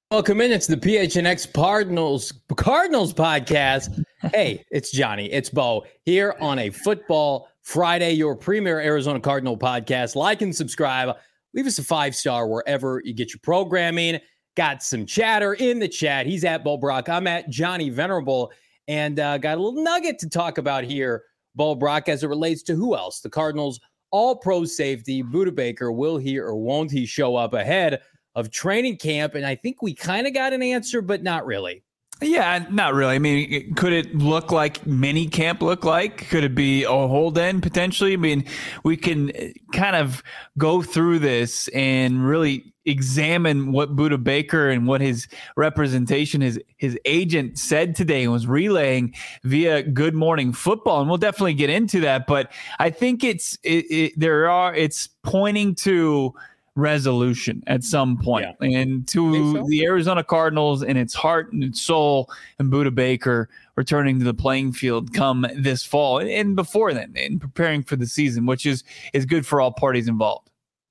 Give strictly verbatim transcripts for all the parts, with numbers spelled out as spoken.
Welcome in. It's the P H N X Cardinals Cardinals podcast. Hey, it's Johnny. It's Bo here on a Football Friday, your premier Arizona Cardinal podcast. Like and subscribe. Leave us a five star wherever you get your programming. Got some chatter in the chat. He's at Bo Brock. I'm at Johnny Venerable, and uh, got a little nugget to talk about here, Bo Brock, as it relates to who else? The Cardinals All-Pro safety Budda Baker. Will he or won't he show up ahead of training camp? And I think we kind of got an answer, but not really. Yeah, not really. I mean, could it look like mini camp look like? Could it be a hold in potentially? I mean, we can kind of go through this and really examine what Budda Baker and what his representation, his his agent said today and was relaying via Good Morning Football. And we'll definitely get into that. But I think it's it, it, there are it's pointing to resolution at some point. Yeah. And to so? the Arizona Cardinals and its heart and its soul, and Budda Baker returning to the playing field come this fall and, and before then, and preparing for the season, which is is good for all parties involved.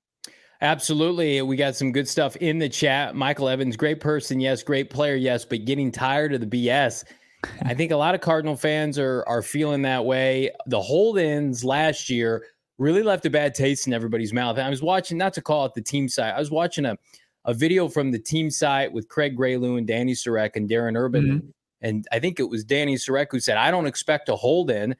Absolutely. We got some good stuff in the chat. Michael Evans, great person, yes, great player, yes, but getting tired of the B S. I think a lot of Cardinal fans are are feeling that way. The hold-ins last year really left a bad taste in everybody's mouth. And I was watching, not to call it the team site, I was watching a, a video from the team site with Craig Graylu and Danny Sarek and Darren Urban. Mm-hmm. And I think it was Danny Sarek who said, I don't expect a hold-in.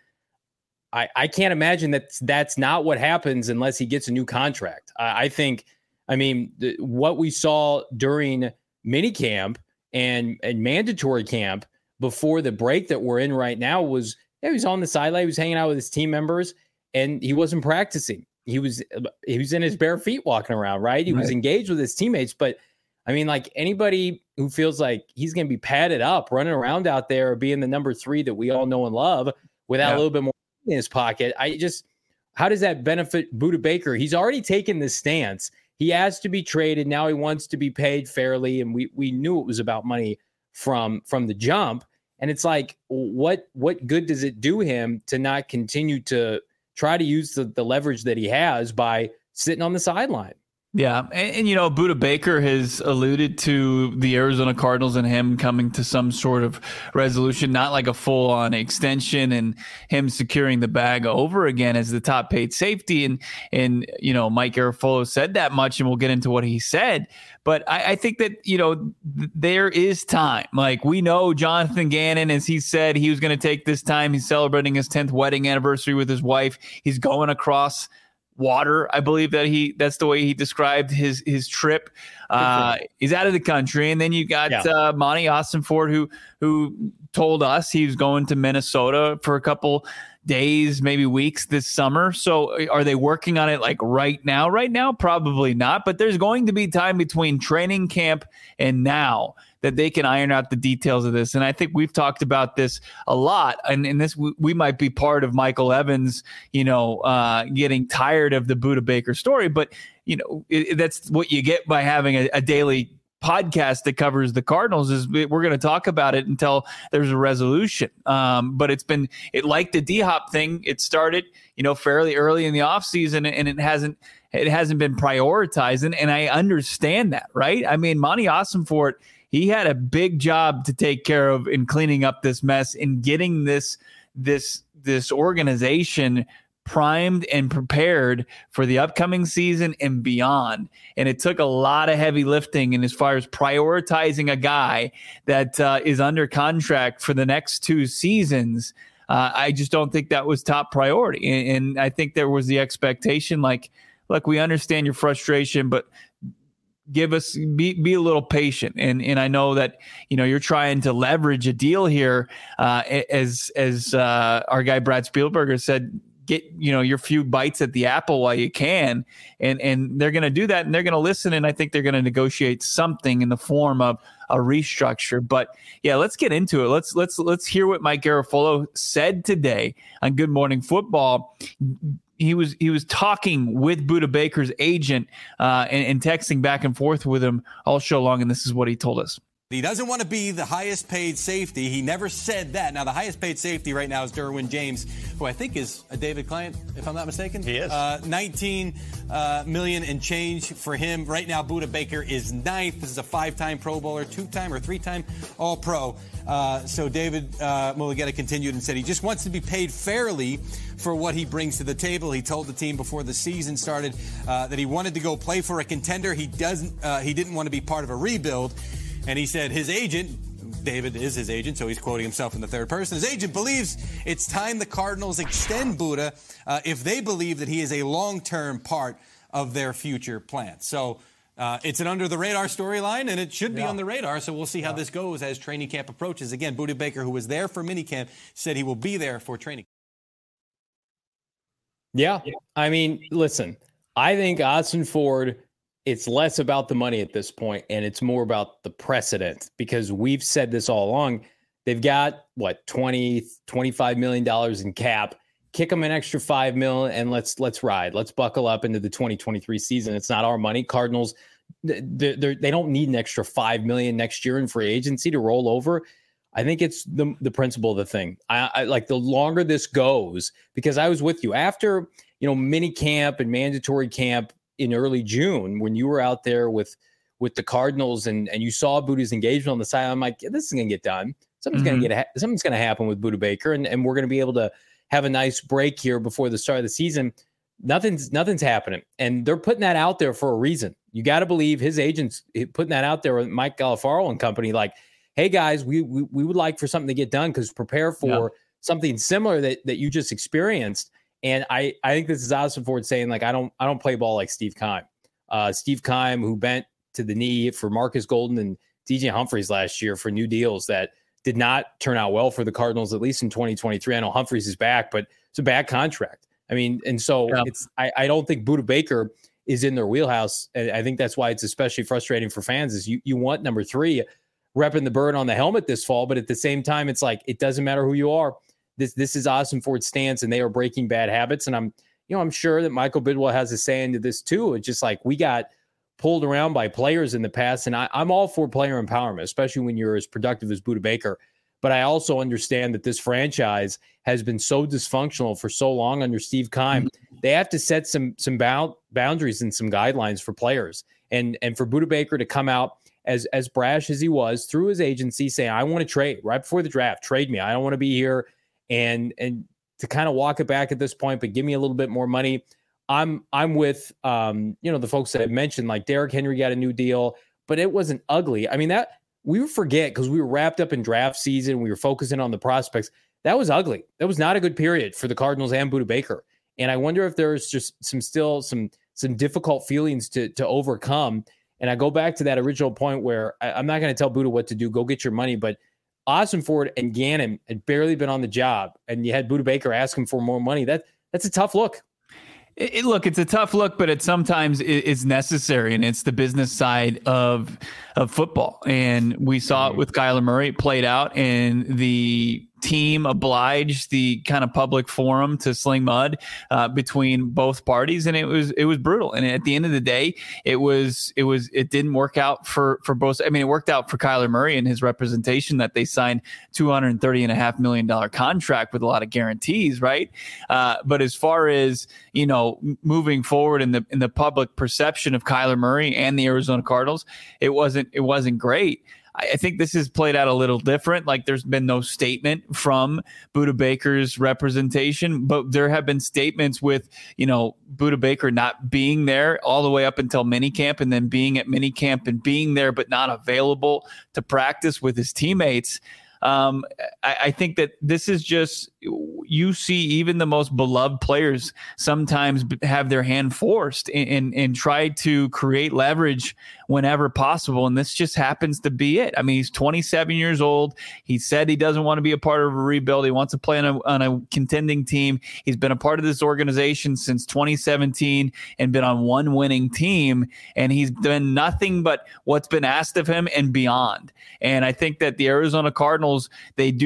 I, I can't imagine that that's not what happens unless he gets a new contract. I, I think, I mean, the, what we saw during minicamp and, and mandatory camp before the break that we're in right now was, yeah, he was on the sideline, he was hanging out with his team members, and he wasn't practicing. He was he was in his bare feet walking around, right? He right. was engaged with his teammates. But, I mean, like anybody who feels like he's going to be padded up, running around out there, being the number three that we all know and love without yeah. a little bit more in his pocket, I just, how does that benefit Budda Baker? He's already taken this stance. He has to be traded. Now he wants to be paid fairly, and we we knew it was about money from from the jump. And it's like, what what good does it do him to not continue to try to use the, the leverage that he has by sitting on the sideline? Yeah. And, and, you know, Budda Baker has alluded to the Arizona Cardinals and him coming to some sort of resolution, not like a full on extension and him securing the bag over again as the top paid safety. And, and, you know, Mike Garafolo said that much, and we'll get into what he said. But I, I think that, you know, th- there is time. Like, we know Jonathan Gannon, as he said, he was going to take this time. He's celebrating his tenth wedding anniversary with his wife. He's going across water, I believe that he that's the way he described his his trip. Uh, he's out of the country. And then you got yeah. uh, Monty Ossenfort, who who told us he was going to Minnesota for a couple days, maybe weeks this summer. So are they working on it like right now? Right now, probably not. But there's going to be time between training camp and now that they can iron out the details of this. And I think we've talked about this a lot. And, and this, we, we might be part of Michael Evans, you know, uh, getting tired of the Budda Baker story. But, you know, it, that's what you get by having a, a daily podcast that covers the Cardinals, is we're going to talk about it until there's a resolution. Um, but it's been it like the D-Hop thing. It started, you know, fairly early in the offseason, and it hasn't it hasn't been prioritized. And, and I understand that, right? I mean, Monty Ossenfort, he had a big job to take care of in cleaning up this mess and getting this this this organization primed and prepared for the upcoming season and beyond. And it took a lot of heavy lifting. And as far as prioritizing a guy that uh, is under contract for the next two seasons, uh, I just don't think that was top priority. And, and I think there was the expectation, like, look, we understand your frustration, but give us be be a little patient. And and I know that, you know, you're trying to leverage a deal here, uh, as as uh, our guy Brad Spielberger said, get, you know, your few bites at the apple while you can. And and they're going to do that, and they're going to listen. And I think they're going to negotiate something in the form of a restructure. But yeah, let's get into it. Let's let's let's hear what Mike Garafolo said today on Good Morning Football. He was he was talking with Budda Baker's agent uh, and, and texting back and forth with him all show long, and this is what he told us. He doesn't want to be the highest paid safety. He never said that. Now, the highest paid safety right now is Derwin James, who I think is a David client, if I'm not mistaken. He is. Uh, nineteen uh, million and change for him. Right now, Budda Baker is ninth. This is a five-time Pro Bowler, two-time or three-time All-Pro. Uh, so David uh, Mulugheta continued and said he just wants to be paid fairly for what he brings to the table. He told the team before the season started uh, that he wanted to go play for a contender. He doesn't. Uh, he didn't want to be part of a rebuild. And he said his agent, David is his agent, so he's quoting himself in the third person. His agent believes it's time the Cardinals extend Budda uh, if they believe that he is a long-term part of their future plans. So uh, it's an under-the-radar storyline, and it should be yeah. on the radar. So we'll see how yeah. this goes as training camp approaches. Again, Budda Baker, who was there for minicamp, said he will be there for training. Yeah, I mean, listen, I think Austin Ford, it's less about the money at this point, and it's more about the precedent, because we've said this all along. They've got, what, twenty, twenty-five million dollars in cap. Kick them an extra five mil, and let's let's ride. Let's buckle up into the twenty twenty-three season. It's not our money. Cardinals, they they don't need an extra five million dollars next year in free agency to roll over. I think it's the the principle of the thing. I, I like the longer this goes, because I was with you after, you know, mini camp and mandatory camp in early June, when you were out there with with the Cardinals and and you saw Budda's engagement on the side. I'm like, yeah, this is going to get done. Something's mm-hmm. going to get ha- something's going to happen with Budda Baker, and, and we're going to be able to have a nice break here before the start of the season. Nothing's nothing's happening, and they're putting that out there for a reason. You got to believe his agents putting that out there with Mike Galafaro and company, like, hey guys, we we, we would like for something to get done, because prepare for yeah. something similar that that you just experienced. And I, I think this is Austin Ford saying, like, I don't I don't play ball like Steve Keim. Uh, Steve Keim, who bent to the knee for Marcus Golden and D J Humphries last year for new deals that did not turn out well for the Cardinals, at least in twenty twenty-three. I know Humphries is back, but it's a bad contract. I mean, and so yeah. it's I, I don't think Budda Baker is in their wheelhouse. And I think that's why it's especially frustrating for fans, is you you want number three repping the bird on the helmet this fall, but at the same time, it's like, it doesn't matter who you are. This this is Austin Ford's stance, and they are breaking bad habits. And I'm, you know, I'm sure that Michael Bidwell has a say into this too. It's just like, we got pulled around by players in the past, and I, I'm all for player empowerment, especially when you're as productive as Budda Baker. But I also understand that this franchise has been so dysfunctional for so long under Steve Keim. Mm-hmm. They have to set some some bound, boundaries and some guidelines for players. And and for Budda Baker to come out as as brash as he was through his agency, saying, I want to trade right before the draft, trade me. I don't want to be here. And and to kind of walk it back at this point, but give me a little bit more money. I'm I'm with um, you know, the folks that I mentioned, like Derrick Henry got a new deal, but it wasn't ugly. I mean, that we forget, because we were wrapped up in draft season. We were focusing on the prospects. That was ugly. That was not a good period for the Cardinals and Budda Baker. And I wonder if there's just some still some some difficult feelings to to overcome. And I go back to that original point where I, I'm not going to tell Budda what to do. Go get your money, but Austin Ford and Gannon had barely been on the job, and you had Budda Baker asking for more money. That that's a tough look. It, it, look, it's a tough look, but it sometimes is necessary, and it's the business side of of football. And we saw it with Kyler Murray. It played out, and the team obliged the kind of public forum to sling mud uh, between both parties, and it was it was brutal. And at the end of the day, it was it was it didn't work out for for both. I mean, it worked out for Kyler Murray and his representation, that they signed two hundred thirty and a half million dollar contract with a lot of guarantees, right? Uh, but as far as, you know, moving forward in the in the public perception of Kyler Murray and the Arizona Cardinals, it wasn't it wasn't great. I think this has played out a little different. Like, there's been no statement from Budda Baker's representation, but there have been statements with, you know, Budda Baker not being there all the way up until minicamp, and then being at minicamp and being there but not available to practice with his teammates. Um, I, I think that this is just, you see even the most beloved players sometimes have their hand forced and, and, and try to create leverage whenever possible. And this just happens to be it. I mean, he's twenty-seven years old. He said he doesn't want to be a part of a rebuild. He wants to play on a, on a contending team. He's been a part of this organization since twenty seventeen and been on one winning team. And he's done nothing but what's been asked of him and beyond. And I think that the Arizona Cardinals, they do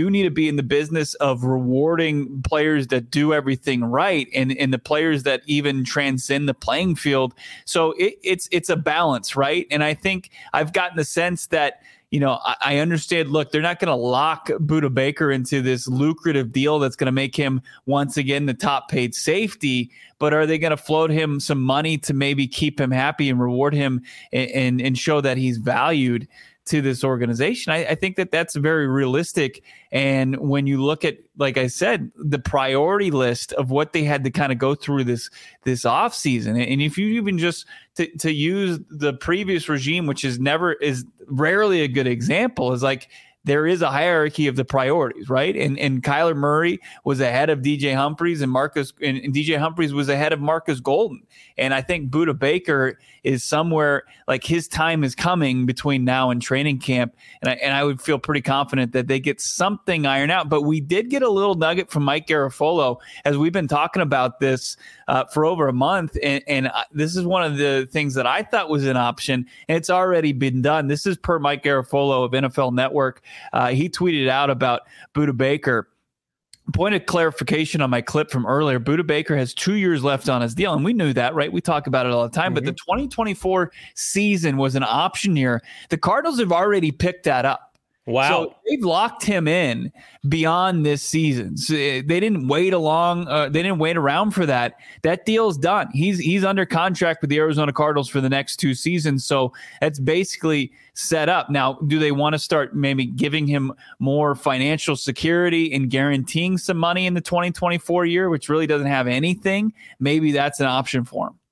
do need to be in the business of rewarding players that do everything right, and, and the players that even transcend the playing field. So it, it's it's a balance, right? And I think I've gotten the sense that, you know, I, I understand, look, they're not going to lock Budda Baker into this lucrative deal that's going to make him once again the top paid safety, but are they going to float him some money to maybe keep him happy and reward him and, and, and show that he's valued to this organization? I, I think that that's very realistic. And when you look at, like I said, the priority list of what they had to kind of go through this this offseason, and if you even just to, to use the previous regime, which is never is rarely a good example, is like there is a hierarchy of the priorities, right? And and Kyler Murray was ahead of D J Humphries, and Marcus and, and D J Humphries was ahead of Marcus Golden. And I think Budda Baker is somewhere like his time is coming between now and training camp. And I, and I would feel pretty confident that they get something ironed out. But we did get a little nugget from Mike Garafolo as we've been talking about this uh, for over a month. And, and this is one of the things that I thought was an option, and it's already been done. This is per Mike Garafolo of N F L Network. Uh, he tweeted out about Budda Baker. Point of clarification on my clip from earlier, Budda Baker has two years left on his deal, and we knew that, right? We talk about it all the time, mm-hmm. but the twenty twenty-four season was an option year. The Cardinals have already picked that up. Wow. So they've locked him in beyond this season. So they didn't wait along. Uh, they didn't wait around for that. That deal's done. He's he's under contract with the Arizona Cardinals for the next two seasons. So that's basically set up. Now, do they want to start maybe giving him more financial security and guaranteeing some money in the twenty twenty-four year, which really doesn't have anything? Maybe that's an option for him.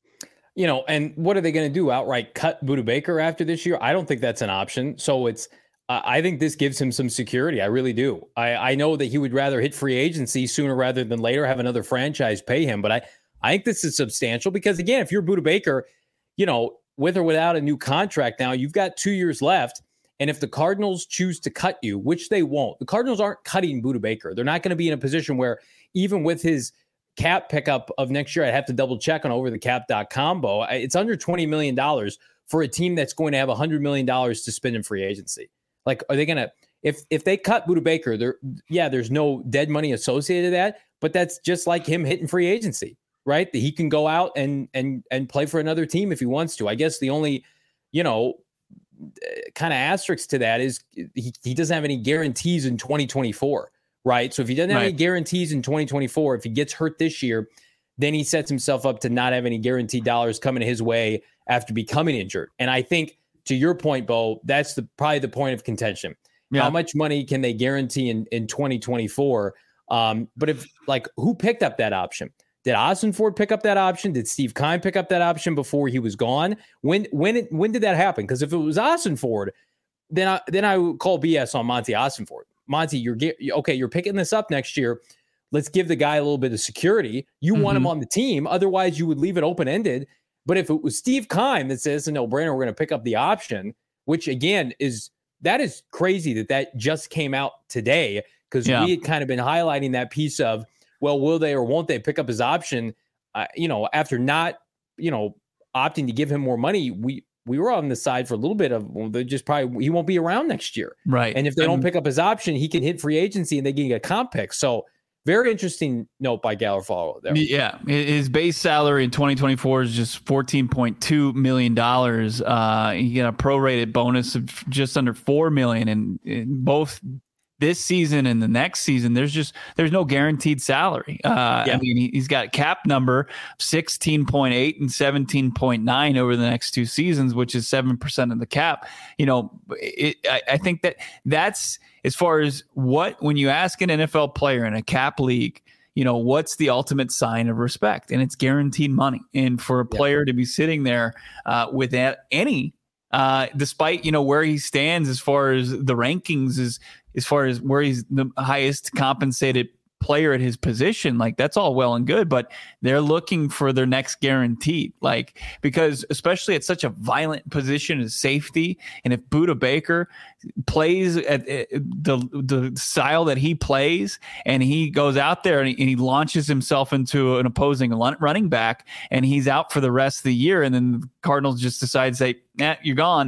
You know, and what are they going to do? Outright cut Budda Baker after this year? I don't think that's an option. So it's Uh, I think this gives him some security. I really do. I, I know that he would rather hit free agency sooner rather than later, have another franchise pay him. But I, I think this is substantial because, again, if you're Budda Baker, you know, with or without a new contract now, you've got two years left. And if the Cardinals choose to cut you, which they won't, the Cardinals aren't cutting Budda Baker. They're not going to be in a position where even with his cap pickup of next year, I'd have to double check on over the cap dot com, Bo. It's under twenty million dollars for a team that's going to have one hundred million dollars to spend in free agency. Like, are they going to, if if they cut Budda Baker, there, yeah, there's no dead money associated with that, but that's just like him hitting free agency, right? That he can go out and and and play for another team if he wants to. I guess the only, you know, kind of asterisk to that is he, he doesn't have any guarantees in twenty twenty-four, right? So if he doesn't have right. any guarantees in twenty twenty-four, if he gets hurt this year, then he sets himself up to not have any guaranteed dollars coming his way after becoming injured. And I think, to your point, Bo, that's the probably the point of contention. Yeah. How much money can they guarantee in, in twenty twenty-four? Um, but if like who picked up that option? Did Ossenford pick up that option? Did Steve Keim pick up that option before he was gone? When when it, when did that happen? Because if it was Ossenford, then I then I would call B S on Monty Ossenford. Monty, you're okay. You're picking this up next year. Let's give the guy a little bit of security. You mm-hmm. want him on the team. Otherwise, you would leave it open ended. But if it was Steve Keim that says, no brainer, we're going to pick up the option, which again is that is crazy that that just came out today because yeah. we had kind of been highlighting that piece of, well, will they or won't they pick up his option? Uh, you know, after not, you know, opting to give him more money, we we were on the side for a little bit of, well, they just probably he won't be around next year, right? And if they um, don't pick up his option, he can hit free agency and they can get a comp pick. So. Very interesting note by Garafolo there. Yeah, his base salary in twenty twenty-four is just fourteen point two million dollars. Uh, he got a prorated bonus of just under four million dollars, and in both this season and the next season, there's just there's no guaranteed salary. Uh, yeah. I mean, he, he's got a cap number sixteen point eight and seventeen point nine over the next two seasons, which is seven percent of the cap. You know, it, I, I think that that's as far as what when you ask an N F L player in a cap league, you know, what's the ultimate sign of respect? And it's guaranteed money. And for a player yeah. to be sitting there uh, without any, uh, despite, you know, where he stands as far as the rankings is, as far as where he's the highest compensated player at his position, like that's all well and good, but they're looking for their next guaranteed, like, because especially at such a violent position as safety. And if Budda Baker plays at, at the the style that he plays and he goes out there and he, and he launches himself into an opposing running back and he's out for the rest of the year, and then the Cardinals just decide to say, eh, you're gone.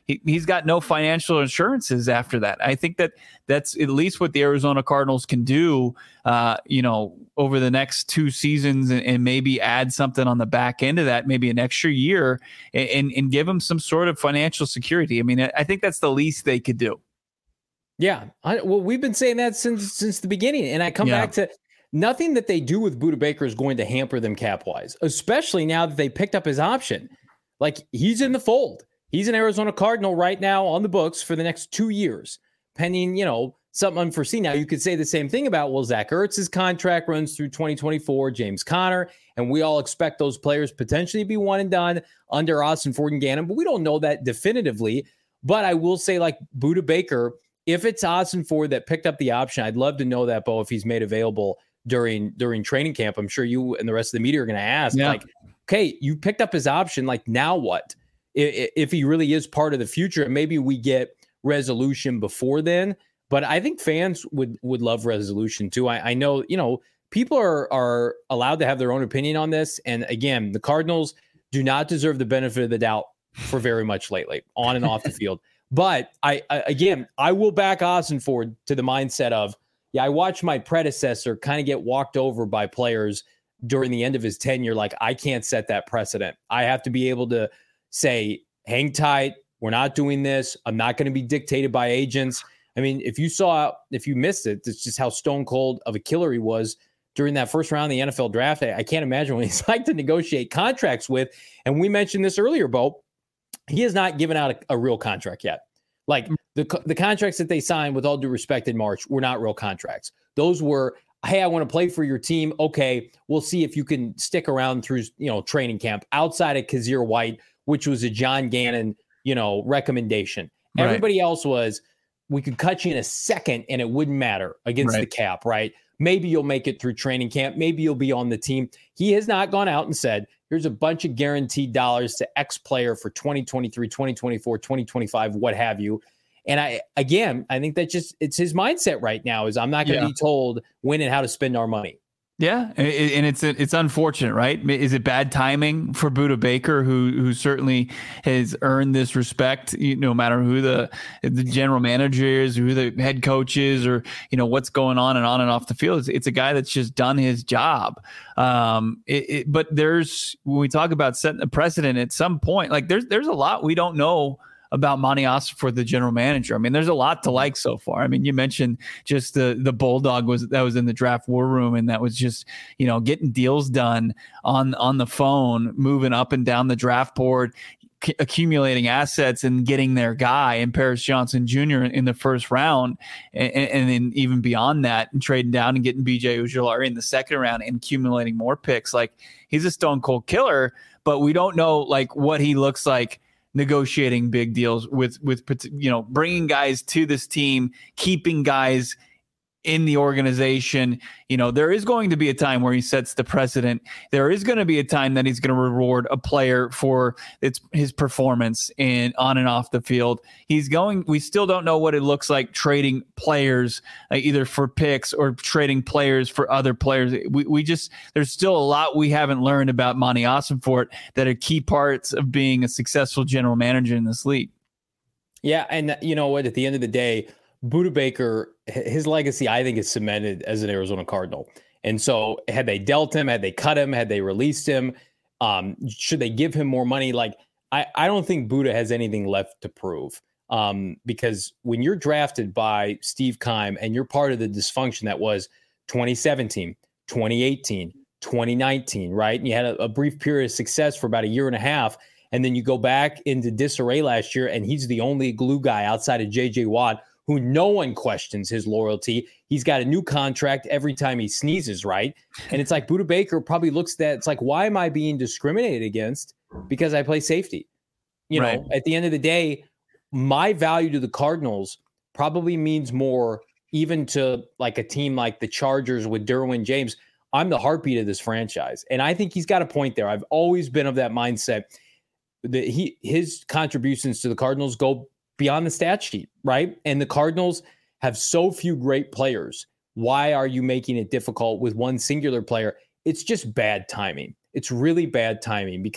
he, he's got no financial assurances after that. I think that that's at least what the Arizona Cardinals can do, uh, you know, over the next two seasons and, and maybe add something on the back end of that, maybe an extra year and, and, and give him some sort of financial security. I mean, I think that's the least they could do. Yeah. I, well, we've been saying that since since the beginning. And I come yeah. back to nothing that they do with Budda Baker is going to hamper them cap-wise, especially now that they picked up his option. Like, he's in the fold. He's an Arizona Cardinal right now on the books for the next two years, pending, you know, something unforeseen. Now, you could say the same thing about, well, Zach Ertz's contract runs through twenty twenty-four, James Conner, and we all expect those players potentially to be one and done under Austin Ford and Gannon, but we don't know that definitively. But I will say, like, Budda Baker, if it's Austin Ford that picked up the option, I'd love to know that, Bo, if he's made available during during training camp. I'm sure you and the rest of the media are going to ask, yeah. like, okay, you picked up his option, like, now what? If, if he really is part of the future, and maybe we get resolution before then. But I think fans would would love resolution too. I, I know, you know, people are are allowed to have their own opinion on this. And again, the Cardinals do not deserve the benefit of the doubt for very much lately, on and off the field. But I, I again, I will back Austin Ford to the mindset of, yeah, I watched my predecessor kind of get walked over by players during the end of his tenure. Like, I can't set that precedent. I have to be able to say, hang tight. We're not doing this. I'm not going to be dictated by agents. I mean, if you saw, if you missed it, it's just how stone cold of a killer he was during that first round of the N F L draft. I, I can't imagine what he's like to negotiate contracts with. And we mentioned this earlier, Bo. He has not given out a, a real contract yet. Like, the the contracts that they signed, with all due respect, in March were not real contracts. Those were, hey, I want to play for your team. Okay, we'll see if you can stick around through, you know, training camp, outside of Kazir White, which was a John Gannon, you know, recommendation. Right. Everybody else was, we could cut you in a second and it wouldn't matter against right. the cap, right? Maybe you'll make it through training camp. Maybe you'll be on the team. He has not gone out and said, here's a bunch of guaranteed dollars to X player for twenty twenty-three, twenty twenty-four, twenty twenty-five, what have you. And I, again, I think that just, it's his mindset right now is, I'm not going to yeah. be told when and how to spend our money. Yeah, and it's it's unfortunate, right? Is it bad timing for Budda Baker, who who certainly has earned this respect, you know, no matter who the the general manager is, who the head coach is, or, you know, what's going on and on and off the field? It's, it's a guy that's just done his job. Um, it, it, but there's, when we talk about setting a precedent at some point, like there's there's a lot we don't know about Monty Ossenfort, the general manager. I mean, there's a lot to like so far. I mean, you mentioned just the the Bulldog was that was in the draft war room, and that was just, you know, getting deals done on on the phone, moving up and down the draft board, c- accumulating assets, and getting their guy in Paris Johnson Junior in the first round, and, and then even beyond that, and trading down and getting B J Ojulari in the second round and accumulating more picks. Like, he's a stone cold killer, but we don't know like what he looks like negotiating big deals with, with, you know, bringing guys to this team, keeping guys in the organization. You know, there is going to be a time where he sets the precedent. There is going to be a time that he's going to reward a player for its his performance and on and off the field. He's going, we still don't know what it looks like trading players uh, either for picks or trading players for other players. We we just, there's still a lot we haven't learned about Monty Ossenfort that are key parts of being a successful general manager in this league. Yeah. And you know what, at the end of the day, Budda Baker, his legacy, I think, is cemented as an Arizona Cardinal. And so had they dealt him, had they cut him, had they released him, um, should they give him more money? Like, I, I don't think Budda has anything left to prove, um, because when you're drafted by Steve Keim and you're part of the dysfunction that was twenty seventeen, twenty eighteen, twenty nineteen, right? And you had a, a brief period of success for about a year and a half. And then you go back into disarray last year, and he's the only glue guy outside of J J Watt, who no one questions his loyalty. He's got a new contract every time he sneezes, right? And it's like Budda Baker probably looks at that. It's like, why am I being discriminated against? Because I play safety. You right. know, at the end of the day, my value to the Cardinals probably means more even to like a team like the Chargers with Derwin James. I'm the heartbeat of this franchise. And I think he's got a point there. I've always been of that mindset that he his contributions to the Cardinals go beyond the stat sheet, right? And the Cardinals have so few great players. Why are you making it difficult with one singular player? It's just bad timing. It's really bad timing because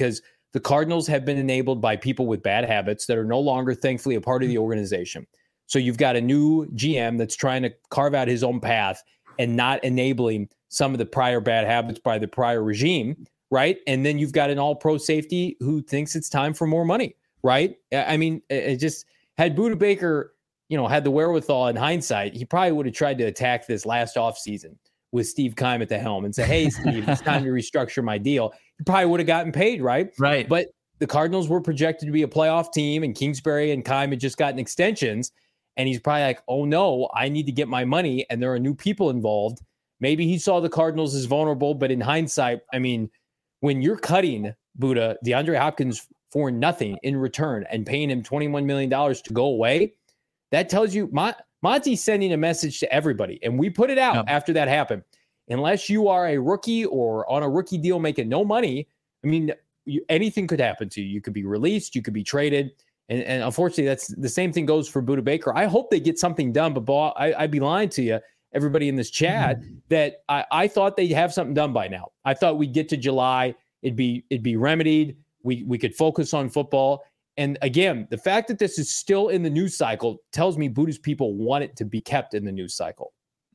the Cardinals have been enabled by people with bad habits that are no longer, thankfully, a part of the organization. So you've got a new G M that's trying to carve out his own path and not enabling some of the prior bad habits by the prior regime, right? And then you've got an all-pro safety who thinks it's time for more money, right? I mean, it just had Budda Baker, you know, had the wherewithal in hindsight, he probably would have tried to attack this last offseason with Steve Keim at the helm and say, hey, Steve, it's time to restructure my deal. He probably would have gotten paid, right? Right. But the Cardinals were projected to be a playoff team, and Kingsbury and Keim had just gotten extensions. And he's probably like, oh, no, I need to get my money. And there are new people involved. Maybe he saw the Cardinals as vulnerable. But in hindsight, I mean, when you're cutting Budda, DeAndre Hopkins for nothing in return and paying him twenty-one million dollars to go away, that tells you Mon- Monty's sending a message to everybody. And we put it out Yep. after that happened. Unless you are a rookie or on a rookie deal making no money, I mean, you, anything could happen to you. You could be released. You could be traded. And, and unfortunately, that's the same thing goes for Budda Baker. I hope they get something done, but Bo, I, I'd be lying to you, everybody in this chat, mm-hmm. that I, I thought they'd have something done by now. I thought we'd get to July, it'd be it'd be remedied. We we could focus on football. And again, the fact that this is still in the news cycle tells me Budda's people want it to be kept in the news cycle.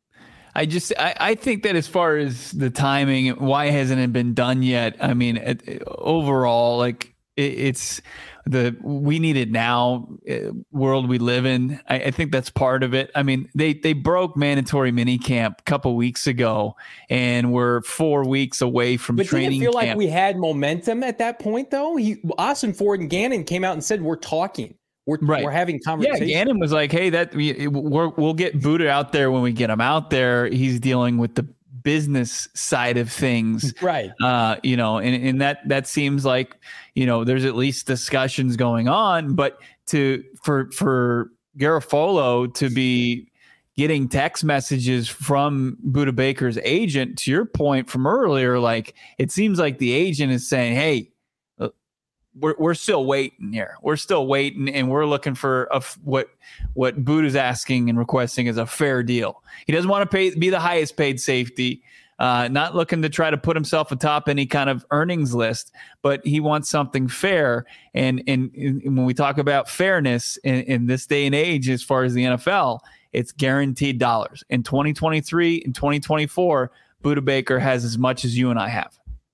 I just, I, I think that as far as the timing, why hasn't it been done yet? I mean, it, it, overall, like it, it's the, we need it now uh, world we live in. I, I think that's part of it. I mean, they, they broke mandatory minicamp a couple weeks ago and we're four weeks away from but training camp. But did it feel camp. like we had momentum at that point though? He, Austin Ford and Gannon came out and said, we're talking. We're, right. we're having conversations. Yeah, Gannon was like, hey, that we, we're, we'll get Budda out there when we get him out there. He's dealing with the business side of things. Right. Uh, you know, and, and that that seems like, you know, there's at least discussions going on. But to for for Garofalo to be getting text messages from Budda Baker's agent, to your point from earlier, like it seems like the agent is saying, hey, We're we're still waiting here. We're still waiting, and we're looking for a, what what Budda's asking and requesting is a fair deal. He doesn't want to pay be the highest paid safety, uh, not looking to try to put himself atop any kind of earnings list, but he wants something fair. And and, and when we talk about fairness in, in this day and age, as far as the N F L, it's guaranteed dollars. In twenty twenty-three and twenty twenty-four, Budda Baker has as much as you and I have.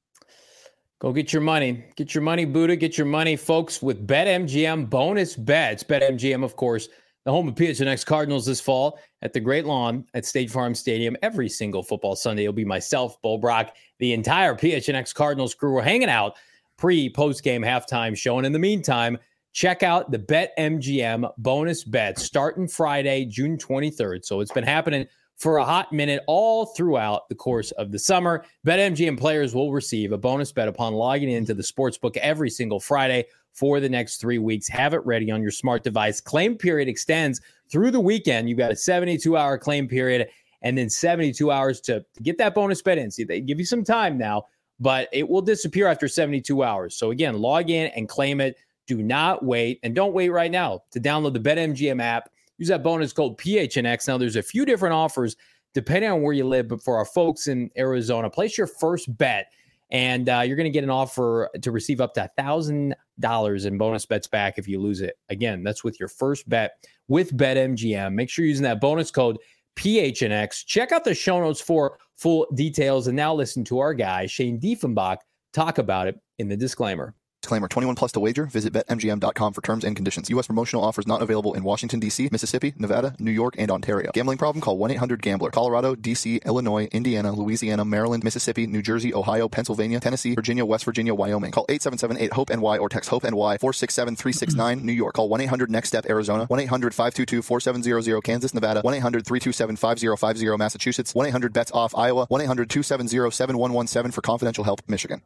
Go get your money. Get your money, Budda. Get your money, folks, with BetMGM bonus bets. BetMGM, of course, the home of P H N X Cardinals this fall at the Great Lawn at State Farm Stadium. Every single football Sunday, it'll be myself, Bo Brock, the entire P H N X Cardinals crew. We're hanging out pre, post-game, halftime show. And in the meantime, check out the BetMGM bonus bets starting Friday, June twenty-third. So it's been happening for a hot minute all throughout the course of the summer. BetMGM players will receive a bonus bet upon logging into the sportsbook every single Friday for the next three weeks. Have it ready on your smart device. Claim period extends through the weekend. You've got a seventy-two hour claim period and then seventy-two hours to, to get that bonus bet in. See, they give you some time now, but it will disappear after seventy-two hours. So again, log in and claim it. Do not wait, and don't wait right now to download the BetMGM app. Use that bonus code P H N X. Now, there's a few different offers depending on where you live, but for our folks in Arizona, place your first bet, and uh, you're going to get an offer to receive up to one thousand dollars in bonus bets back if you lose it. Again, that's with your first bet with BetMGM. Make sure you're using that bonus code P H N X. Check out the show notes for full details, and now listen to our guy, Shane Diefenbach, talk about it in the disclaimer. Disclaimer, twenty-one plus to wager. Visit Bet M G M dot com for terms and conditions. U S promotional offers not available in Washington, D C, Mississippi, Nevada, New York, and Ontario. Gambling problem? Call one eight hundred gambler. Colorado, D C, Illinois, Indiana, Louisiana, Maryland, Mississippi, New Jersey, Ohio, Pennsylvania, Tennessee, Virginia, West Virginia, Wyoming. Call eight seven seven eight hope N Y or text HOPE-NY four six seven three six nine. New York. Call one eight hundred next step Arizona. one eight hundred five two two four seven zero zero. Kansas, Nevada. one eight hundred three two seven five zero five zero. Massachusetts. one eight hundred bets off Iowa. one eight hundred two seven zero seven one one seven for confidential help, Michigan.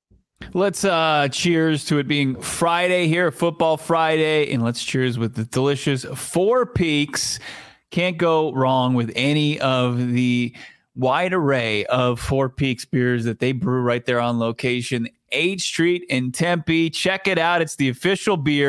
Let's uh, cheers to it being Friday here, Football Friday, and let's cheers with the delicious Four Peaks. Can't go wrong with any of the wide array of Four Peaks beers that they brew right there on location, eighth Street in Tempe. Check it out. It's the official beer of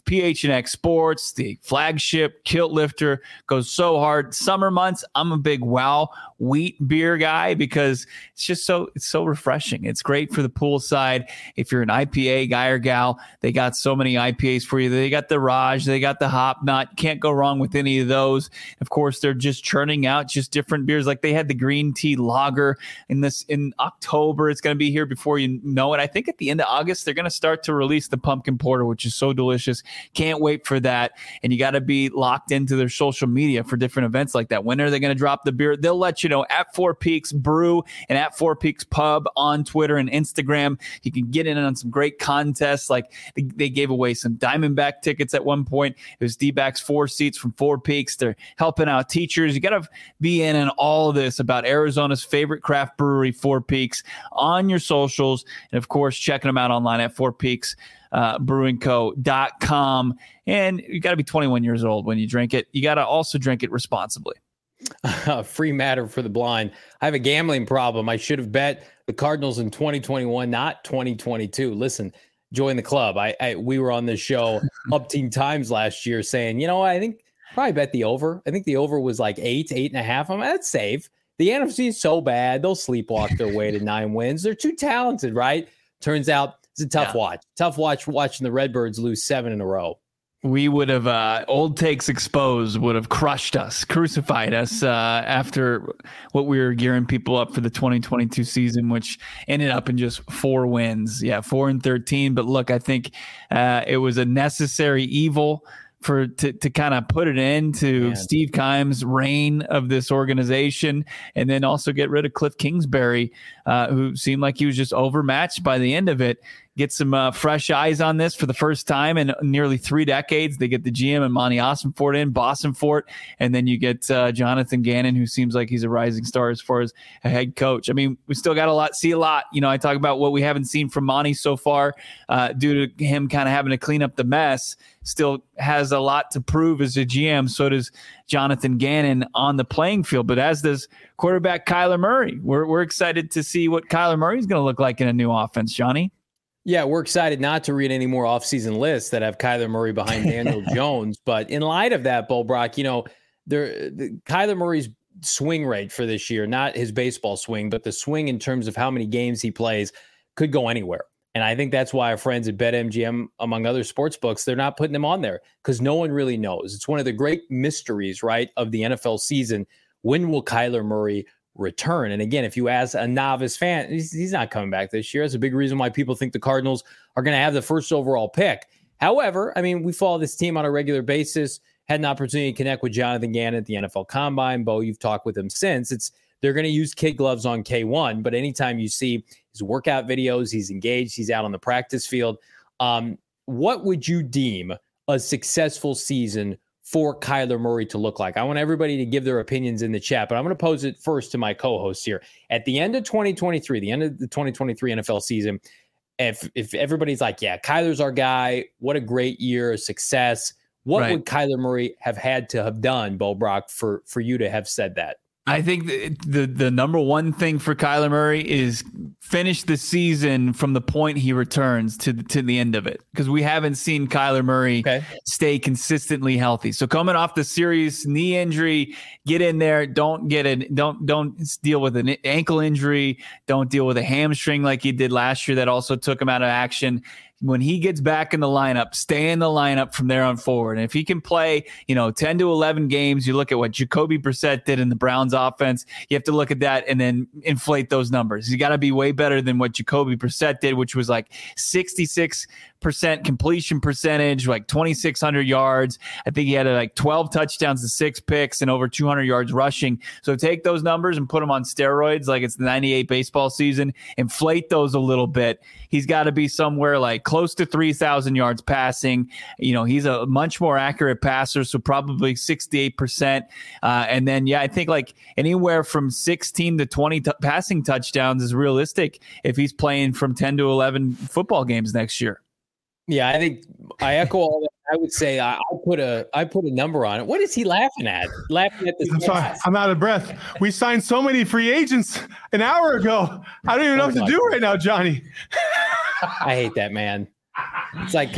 P H N X Sports, the flagship kilt lifter, goes so hard. Summer months, I'm a big Wow wheat beer guy because it's just so it's so refreshing. It's great for the poolside. If you're an I P A guy or gal, they got so many I P As for you. They got the Raj, they got the Hop Nut. Can't go wrong with any of those. Of course, they're just churning out just different beers. Like they had the green tea lager in this in October. It's going to be here before you know it. I think at the end of August, they're going to start to release the pumpkin porter, which is so delicious. Can't wait for that. And you got to be locked into their social media for different events like that. When are they going to drop the beer? They'll let you know at Four Peaks Brew and at Four Peaks Pub on Twitter and Instagram. You can get in on some great contests. Like they, they gave away some Diamondback tickets at one point. It was D-backs four seats from Four Peaks. They're helping out teachers. You got to be in on all of this about Arizona's favorite craft brewery, Four Peaks, on your socials. And of course, checking them out online at Four Peaks. Uh, brewing co dot com. And you got to be twenty-one years old when you drink it. You got to also drink it responsibly. Uh, free matter for the blind. I have a gambling problem. I should have bet the Cardinals in twenty twenty-one, not twenty twenty-two. Listen, join the club. I, I we were on this show up teen times last year saying, you know, I think probably bet the over. I think the over was like eight, eight and a half. I'm that's safe. The N F C is so bad. They'll sleepwalk their way to nine wins. They're too talented, right? Turns out it's a tough yeah. watch. Tough watch watching the Redbirds lose seven in a row. We would have, uh, Old Takes Exposed would have crushed us, crucified us uh, after what we were gearing people up for the twenty twenty-two season, which ended up in just four wins. Yeah, four and thirteen. But look, I think uh, it was a necessary evil for to, to kind of put it into Man. Steve Keim's reign of this organization, and then also get rid of Cliff Kingsbury, uh, who seemed like he was just overmatched by the end of it. Get some uh, fresh eyes on this for the first time in nearly three decades. They get the G M and Monty Ossenfort in, Bossenfort, and then you get uh, Jonathan Gannon, who seems like he's a rising star as far as a head coach. I mean, we still got a lot, see a lot. You know, I talk about what we haven't seen from Monty so far uh, due to him kind of having to clean up the mess. Still has a lot to prove as a G M. So does Jonathan Gannon on the playing field, but as does quarterback Kyler Murray. We're we're excited to see what Kyler Murray is going to look like in a new offense, Johnny. Yeah, we're excited not to read any more offseason lists that have Kyler Murray behind Daniel Jones. But in light of that, Bo Brock, you know, there, the, Kyler Murray's swing rate for this year, not his baseball swing, but the swing in terms of how many games he plays could go anywhere. And I think that's why our friends at BetMGM, among other sports books, they're not putting him on there because no one really knows. It's one of the great mysteries, right, of the N F L season. When will Kyler Murray return? And again, if you ask a novice fan, he's, he's not coming back this year. That's a big reason why people think the Cardinals are going to have the first overall pick. However, I mean, we follow this team on a regular basis, had an opportunity to connect with Jonathan Gannon at the N F L Combine. Bo, you've talked with him since. It's they're going to use kid gloves on K one, but anytime you see his workout videos, he's engaged, he's out on the practice field. Um, what would you deem a successful season for Kyler Murray to look like? I want everybody to give their opinions in the chat, but I'm going to pose it first to my co-hosts here. At the end of twenty twenty-three, the end of the twenty twenty-three N F L season, if if everybody's like, yeah, Kyler's our guy, what a great year, a success, what right. would Kyler Murray have had to have done, Bo Brock, for, for you to have said that? I think the, the the number one thing for Kyler Murray is finish the season from the point he returns to the, to the end of it, because we haven't seen Kyler Murray okay. stay consistently healthy. So coming off the serious knee injury, get in there. Don't get it. Don't don't deal with an ankle injury. Don't deal with a hamstring like he did last year that also took him out of action. When he gets back in the lineup, stay in the lineup from there on forward. And if he can play, you know, ten to eleven games, you look at what Jacoby Brissett did in the Browns offense. You have to look at that and then inflate those numbers. You got to be way better than what Jacoby Brissett did, which was like sixty-six percent completion percentage, like twenty-six hundred yards. I think he had like twelve touchdowns to six picks and over two hundred yards rushing. So take those numbers and put them on steroids like it's the ninety-eight baseball season, inflate those a little bit. He's got to be somewhere like close to three thousand yards passing. You know, he's a much more accurate passer, so probably sixty-eight percent. Uh, and then, yeah, I think like anywhere from sixteen to twenty t- passing touchdowns is realistic if he's playing from ten to eleven football games next year. Yeah, I think I echo all that. I would say I, I put a I put a number on it. What is he laughing at? Laughing at this. I'm sorry, I'm out of breath. We signed so many free agents an hour ago. I don't even know oh what to do right now, Johnny. I hate that, man. It's like, can we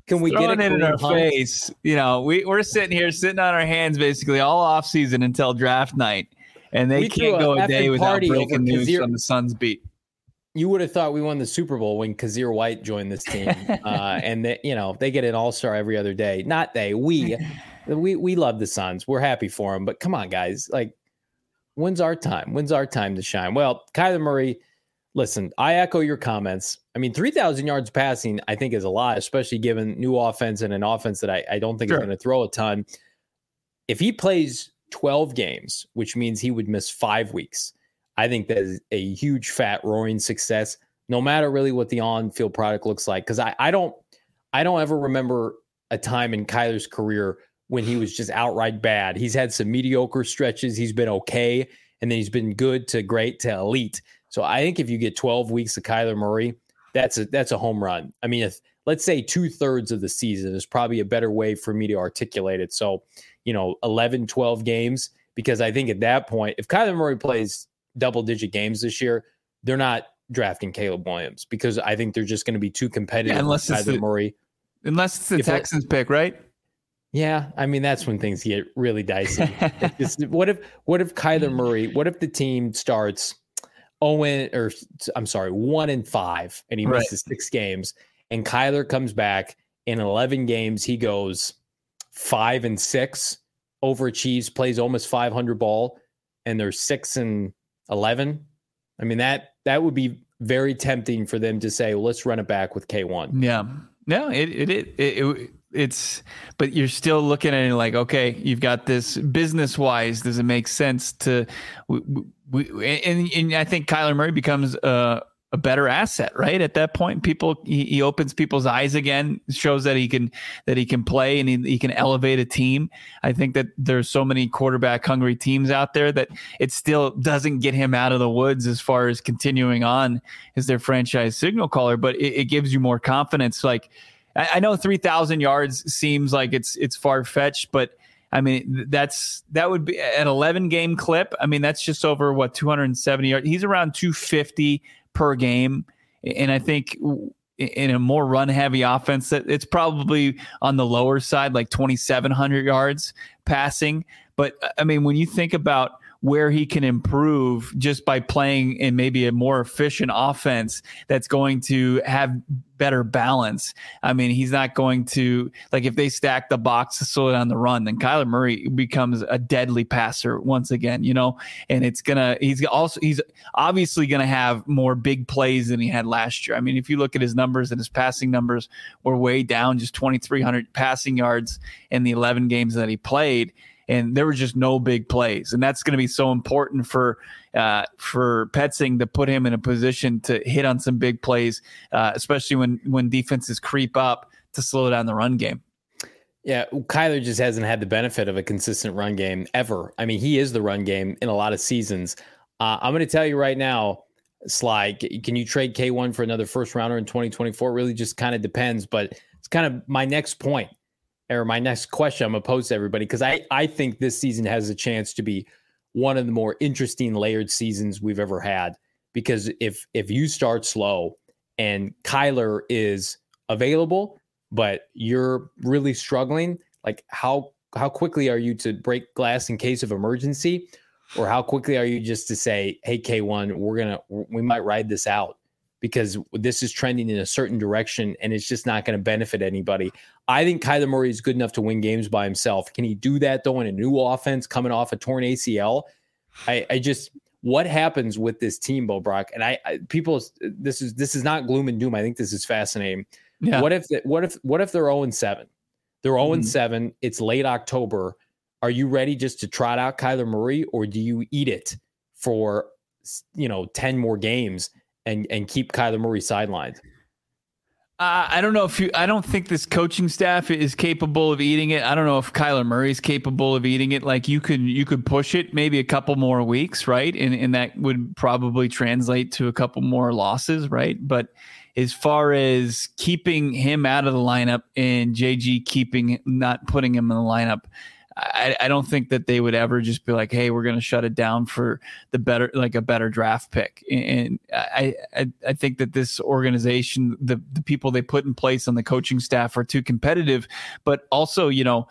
Can we Throwing get it in our Hunt? face? You know, we we're sitting here, sitting on our hands, basically all off season until draft night, and they We threw can't a go a effing day without party over breaking news Kazir- from the Suns beat. You would have thought we won the Super Bowl when Kazir White joined this team, uh, and they, you know they get an All Star every other day. Not they, we, we, we love the Suns. We're happy for them, but come on, guys, like, when's our time? When's our time to shine? Well, Kyler Murray. Listen, I echo your comments. I mean, three thousand yards passing, I think, is a lot, especially given new offense and an offense that I, I don't think sure. is going to throw a ton. If he plays twelve games, which means he would miss five weeks, I think that is a huge, fat, roaring success, no matter really what the on-field product looks like. Because I, I don't I don't ever remember a time in Kyler's career when he was just outright bad. He's had some mediocre stretches. He's been okay, and then he's been good to great to elite. So I think if you get twelve weeks of Kyler Murray, that's a that's a home run. I mean, if let's say two thirds of the season is probably a better way for me to articulate it. So, you know, eleven, twelve games, because I think at that point, if Kyler Murray plays double digit games this year, they're not drafting Caleb Williams, because I think they're just going to be too competitive. Yeah, unless with it's Kyler the, Murray. Unless it's the if Texans I, pick, right? Yeah, I mean, that's when things get really dicey. what if what if Kyler Murray? What if the team starts Owen, or I'm sorry, one and five, and he right. misses six games, and Kyler comes back in eleven games, he goes five and six, overachieves, plays almost five hundred ball, and they're six and eleven. I mean, that that would be very tempting for them to say, well, let's run it back with K one. Yeah, no, it it it. it, it It's, but you're still looking at it like, okay, you've got this business wise. Does it make sense to, we, we, and, and I think Kyler Murray becomes a, a better asset, right? At that point, people, he, he opens people's eyes again, shows that he can, that he can play and he, he can elevate a team. I think that there's so many quarterback hungry teams out there that it still doesn't get him out of the woods as far as continuing on as their franchise signal caller, but it, it gives you more confidence. Like, I know three thousand yards seems like it's it's far-fetched, but I mean, that's that would be an eleven game clip. I mean, that's just over what two hundred seventy yards. He's around two fifty per game. And I think in a more run heavy offense, that it's probably on the lower side, like twenty-seven hundred yards passing. But I mean, when you think about where he can improve just by playing in maybe a more efficient offense that's going to have better balance. I mean, he's not going to, like, if they stack the box to slow down the run, then Kyler Murray becomes a deadly passer once again, you know, and it's going to, he's also, he's obviously going to have more big plays than he had last year. I mean, if you look at his numbers, and his passing numbers were way down, just twenty-three hundred passing yards in the eleven games that he played. And there were just no big plays. And that's going to be so important for uh, for Petzing to put him in a position to hit on some big plays, uh, especially when, when defenses creep up to slow down the run game. Yeah, Kyler just hasn't had the benefit of a consistent run game ever. I mean, he is the run game in a lot of seasons. Uh, I'm going to tell you right now, Sly, can you trade K one for another first rounder in twenty twenty-four? It really just kind of depends. But it's kind of my next point. Or my next question I'm going to pose to everybody, because I, I think this season has a chance to be one of the more interesting layered seasons we've ever had. Because if if you start slow and Kyler is available, but you're really struggling, like how how quickly are you to break glass in case of emergency? Or how quickly are you just to say, hey, K one, we're going to, we might ride this out, because this is trending in a certain direction and it's just not going to benefit anybody. I think Kyler Murray is good enough to win games by himself. Can he do that, though, in a new offense coming off a torn A C L? I, I just, what happens with this team, Bo Brock? And I, I, people, this is this is not gloom and doom. I think this is fascinating. Yeah. What if, what if, what if they're oh and seven? They're oh and seven. Mm-hmm. It's late October. Are you ready just to trot out Kyler Murray, or do you eat it for, you know, ten more games and and keep Kyler Murray sidelined? Uh, I don't know if you, I don't think this coaching staff is capable of eating it. I don't know if Kyler Murray is capable of eating it. Like, you could, you could push it maybe a couple more weeks, right? And and that would probably translate to a couple more losses, right? But as far as keeping him out of the lineup and J G keeping, not putting him in the lineup, I, I don't think that they would ever just be like, hey, we're going to shut it down for the better, like a better draft pick. And I, I, I think that this organization, the, the people they put in place on the coaching staff are too competitive, but also, you know,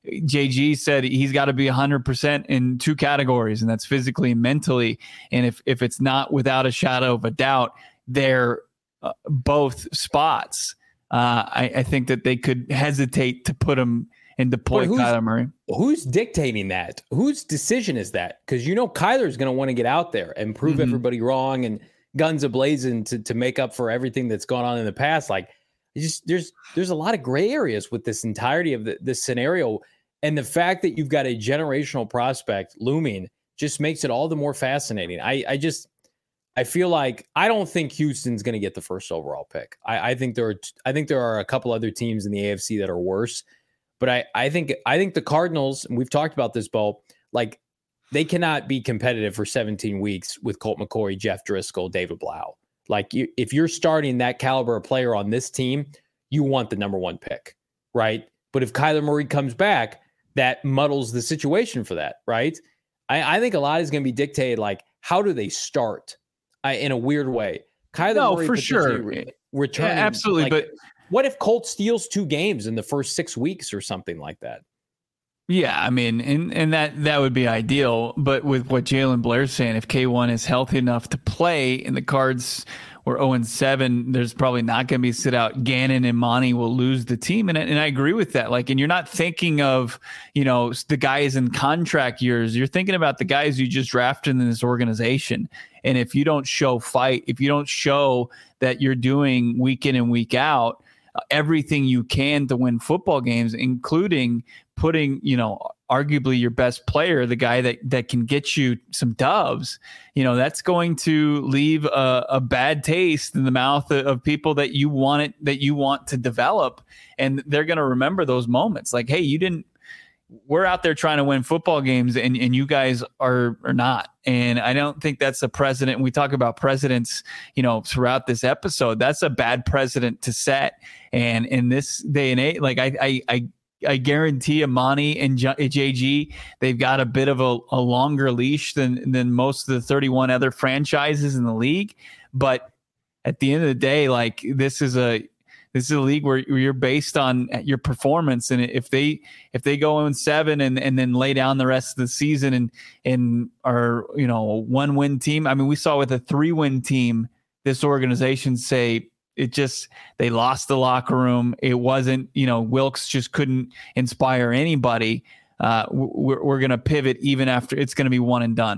J G said he's got to be one hundred percent in two categories, and that's physically and mentally. And if, if it's not without a shadow of a doubt, they're uh, both spots. Uh, I, I think that they could hesitate to put him and deploy Kyler Murray. Who's dictating that? Whose decision is that? Because you know Kyler's going to want to get out there and prove mm-hmm. everybody wrong and guns ablazing to to make up for everything that's gone on in the past. Like, just there's there's a lot of gray areas with this entirety of the, this scenario. And the fact that you've got a generational prospect looming just makes it all the more fascinating. I, I just, I feel like I don't think Houston's going to get the first overall pick. I, I think there are, I think there are a couple other teams in the A F C that are worse. But I, I think, I think the Cardinals, and we've talked about this, Bo, like they cannot be competitive for seventeen weeks with Colt McCoy, Jeff Driscoll, David Blau. Like you, if you're starting that caliber of player on this team, you want the number one pick, right? But if Kyler Murray comes back, that muddles the situation for that, right? I, I think a lot is going to be dictated, like, how do they start I, in a weird way? Kyler no, Murray for sure. Re- returning, yeah, absolutely. Like, but what if Colt steals two games in the first six weeks or something like that? Yeah, I mean, and, and that, that would be ideal. But with what Jalen Blair's saying, if K one is healthy enough to play and the Cards were oh and seven, there's probably not going to be a sit out. Gannon and Monty will lose the team. And, and I agree with that. Like, and you're not thinking of, you know, the guys in contract years. You're thinking about the guys you just drafted in this organization. And if you don't show fight, if you don't show that you're doing week in and week out, everything you can to win football games, including putting, you know, arguably your best player, the guy that, that can get you some dubs, you know, that's going to leave a, a bad taste in the mouth of, of people that you want it, that you want to develop. And they're going to remember those moments like, hey, you didn't, we're out there trying to win football games and, and you guys are, are not. And I don't think that's a precedent. We talk about precedents, you know, throughout this episode, that's a bad precedent to set. And in this day and age, like I, I, I, I guarantee Amani and J G, they've got a bit of a, a longer leash than, than most of the thirty-one other franchises in the league. But at the end of the day, like this is a, This is a league where you're based on your performance, and if they if they go in seven and, and then lay down the rest of the season and and are, you know, a one win team. I mean, we saw with a three win team, this organization say it just they lost the locker room. It wasn't, you know, Wilkes just couldn't inspire anybody. Uh, we're we're gonna pivot even after it's gonna be one and done.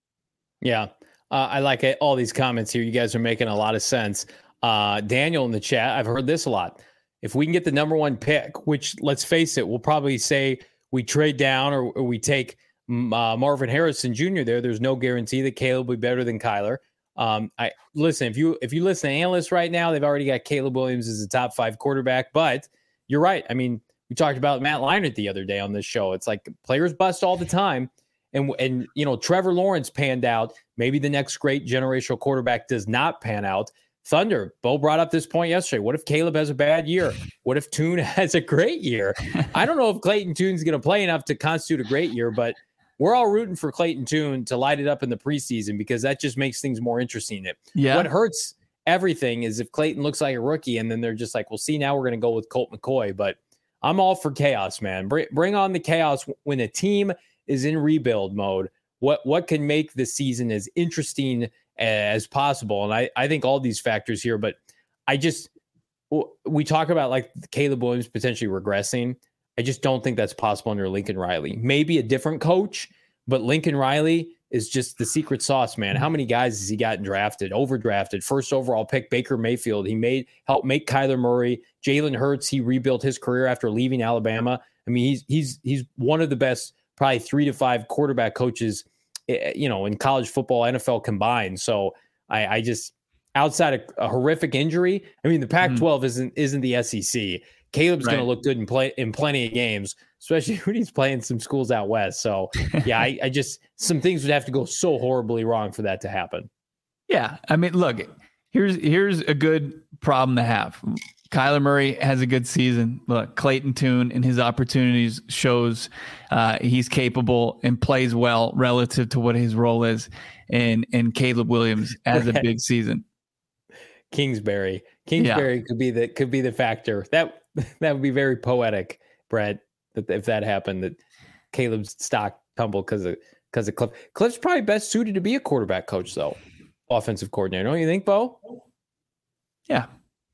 Yeah, uh, I like it. All these comments here. You guys are making a lot of sense. Uh, Daniel in the chat, I've heard this a lot. If we can get the number one pick, which let's face it, we'll probably say we trade down or, or we take uh, Marvin Harrison Junior there. There's no guarantee that Caleb will be better than Kyler. Um, I listen, if you, if you listen to analysts right now, they've already got Caleb Williams as the top five quarterback, but you're right. I mean, we talked about Matt Leinart the other day on this show. It's like players bust all the time. And, and, you know, Trevor Lawrence panned out. Maybe the next great generational quarterback does not pan out. Thunder, Bo brought up this point yesterday. What if Caleb has a bad year? What if Tune has a great year? I don't know if Clayton Tune's going to play enough to constitute a great year, but we're all rooting for Clayton Tune to light it up in the preseason because that just makes things more interesting. Yeah. What hurts everything is if Clayton looks like a rookie and then they're just like, well, see, now we're going to go with Colt McCoy. But I'm all for chaos, man. Bring, bring on the chaos when a team is in rebuild mode. What, what can make the season as interesting as possible? And I, I think all these factors here, but I just, we talk about like Caleb Williams potentially regressing. I just don't think that's possible under Lincoln Riley. Maybe a different coach, but Lincoln Riley is just the secret sauce, man. How many guys has he gotten drafted, overdrafted, first overall pick, Baker Mayfield. He made, helped make Kyler Murray, Jalen Hurts. He rebuilt his career after leaving Alabama. I mean, he's, he's, he's one of the best, probably three to five quarterback coaches, you know, in college football, N F L combined. So I, I just, outside of a horrific injury, I mean, the Pac twelve mm. isn't isn't the S E C. Caleb's right. going to look good in play in plenty of games, especially when he's playing some schools out west. So yeah, I, I just some things would have to go so horribly wrong for that to happen. Yeah, I mean, look, here's here's a good problem to have. Kyler Murray has a good season. Look, Clayton Tune in his opportunities shows uh, he's capable and plays well relative to what his role is. And and Caleb Williams has a big season. Kingsbury, Kingsbury yeah. could be the could be the factor. That that would be very poetic, Brett. That if that happened, that Caleb's stock tumbled because of because of Cliff. Cliff's probably best suited to be a quarterback coach, though, offensive coordinator. Don't you think, Bo? Yeah.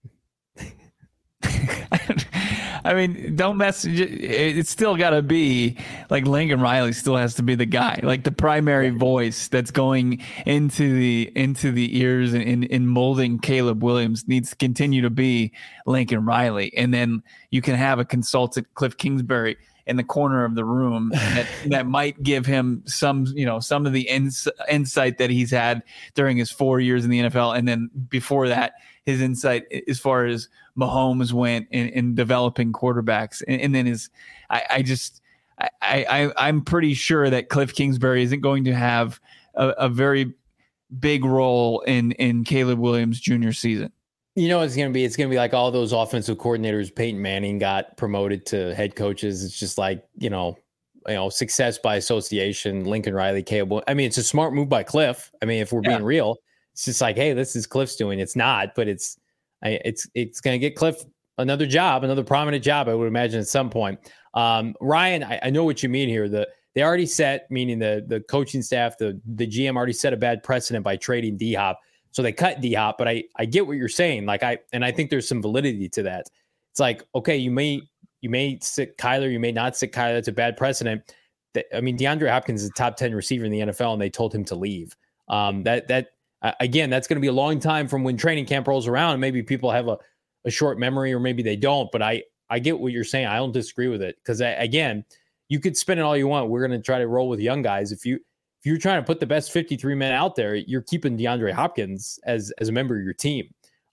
I mean, don't mess. It's still got to be like Lincoln Riley still has to be the guy, like the primary voice that's going into the into the ears and in, in molding Caleb Williams needs to continue to be Lincoln Riley, and then you can have a consultant, Cliff Kingsbury, in the corner of the room that, that might give him some, you know, some of the ins- insight that he's had during his four years in the N F L, and then before that, his insight as far as Mahomes went in, in developing quarterbacks. And, and then his, I, I just, I, I, I'm pretty sure that Cliff Kingsbury isn't going to have a, a very big role in, in Caleb Williams' junior season. You know, it's going to be, it's going to be like all those offensive coordinators. Peyton Manning got promoted to head coaches. It's just like, you know, you know, success by association. Lincoln Riley, Caleb. I mean, it's a smart move by Cliff. I mean, if we're yeah. being real, it's just like, hey, this is Cliff's doing. It's not, but it's, I, it's, it's going to get Cliff another job, another prominent job, I would imagine at some point. Um, Ryan, I, I know what you mean here. The they already set, meaning the the coaching staff, the the G M already set a bad precedent by trading D-Hop. So they cut D-Hop, but I, I get what you're saying. Like I, and I think there's some validity to that. It's like, okay, you may, you may sit Kyler, you may not sit Kyler. That's a bad precedent. That, I mean, DeAndre Hopkins is a top ten receiver in the N F L and they told him to leave. Um, that, that, uh, again, that's going to be a long time from when training camp rolls around. And maybe people have a, a short memory or maybe they don't, but I, I get what you're saying. I don't disagree with it. Cause I, again, you could spin it all you want. We're going to try to roll with young guys. If you, If you're trying to put the best fifty-three men out there, you're keeping DeAndre Hopkins as as a member of your team.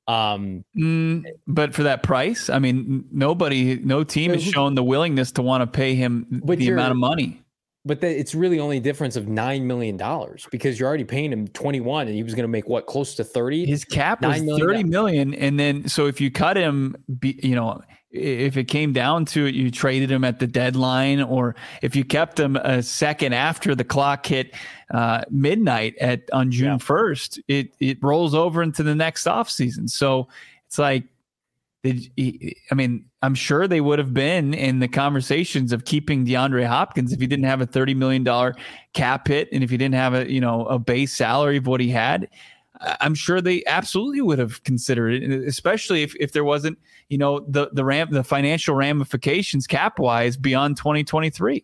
Um, mm, but for that price, I mean, nobody, no team has shown the willingness to want to pay him the amount of money. But the, it's really only a difference of nine million dollars because you're already paying him twenty-one and he was going to make what, close to thirty? His cap was thirty million. And then, so if you cut him, you know, if it came down to it, you traded him at the deadline, or if you kept him a second after the clock hit uh, midnight at on June yeah. first, it it rolls over into the next offseason. So it's like, did he, I mean, I'm sure they would have been in the conversations of keeping DeAndre Hopkins if he didn't have a thirty million dollars cap hit and if he didn't have a, you know, a base salary of what he had. I'm sure they absolutely would have considered it, especially if, if there wasn't, you know, the the ram the financial ramifications cap wise beyond twenty twenty-three.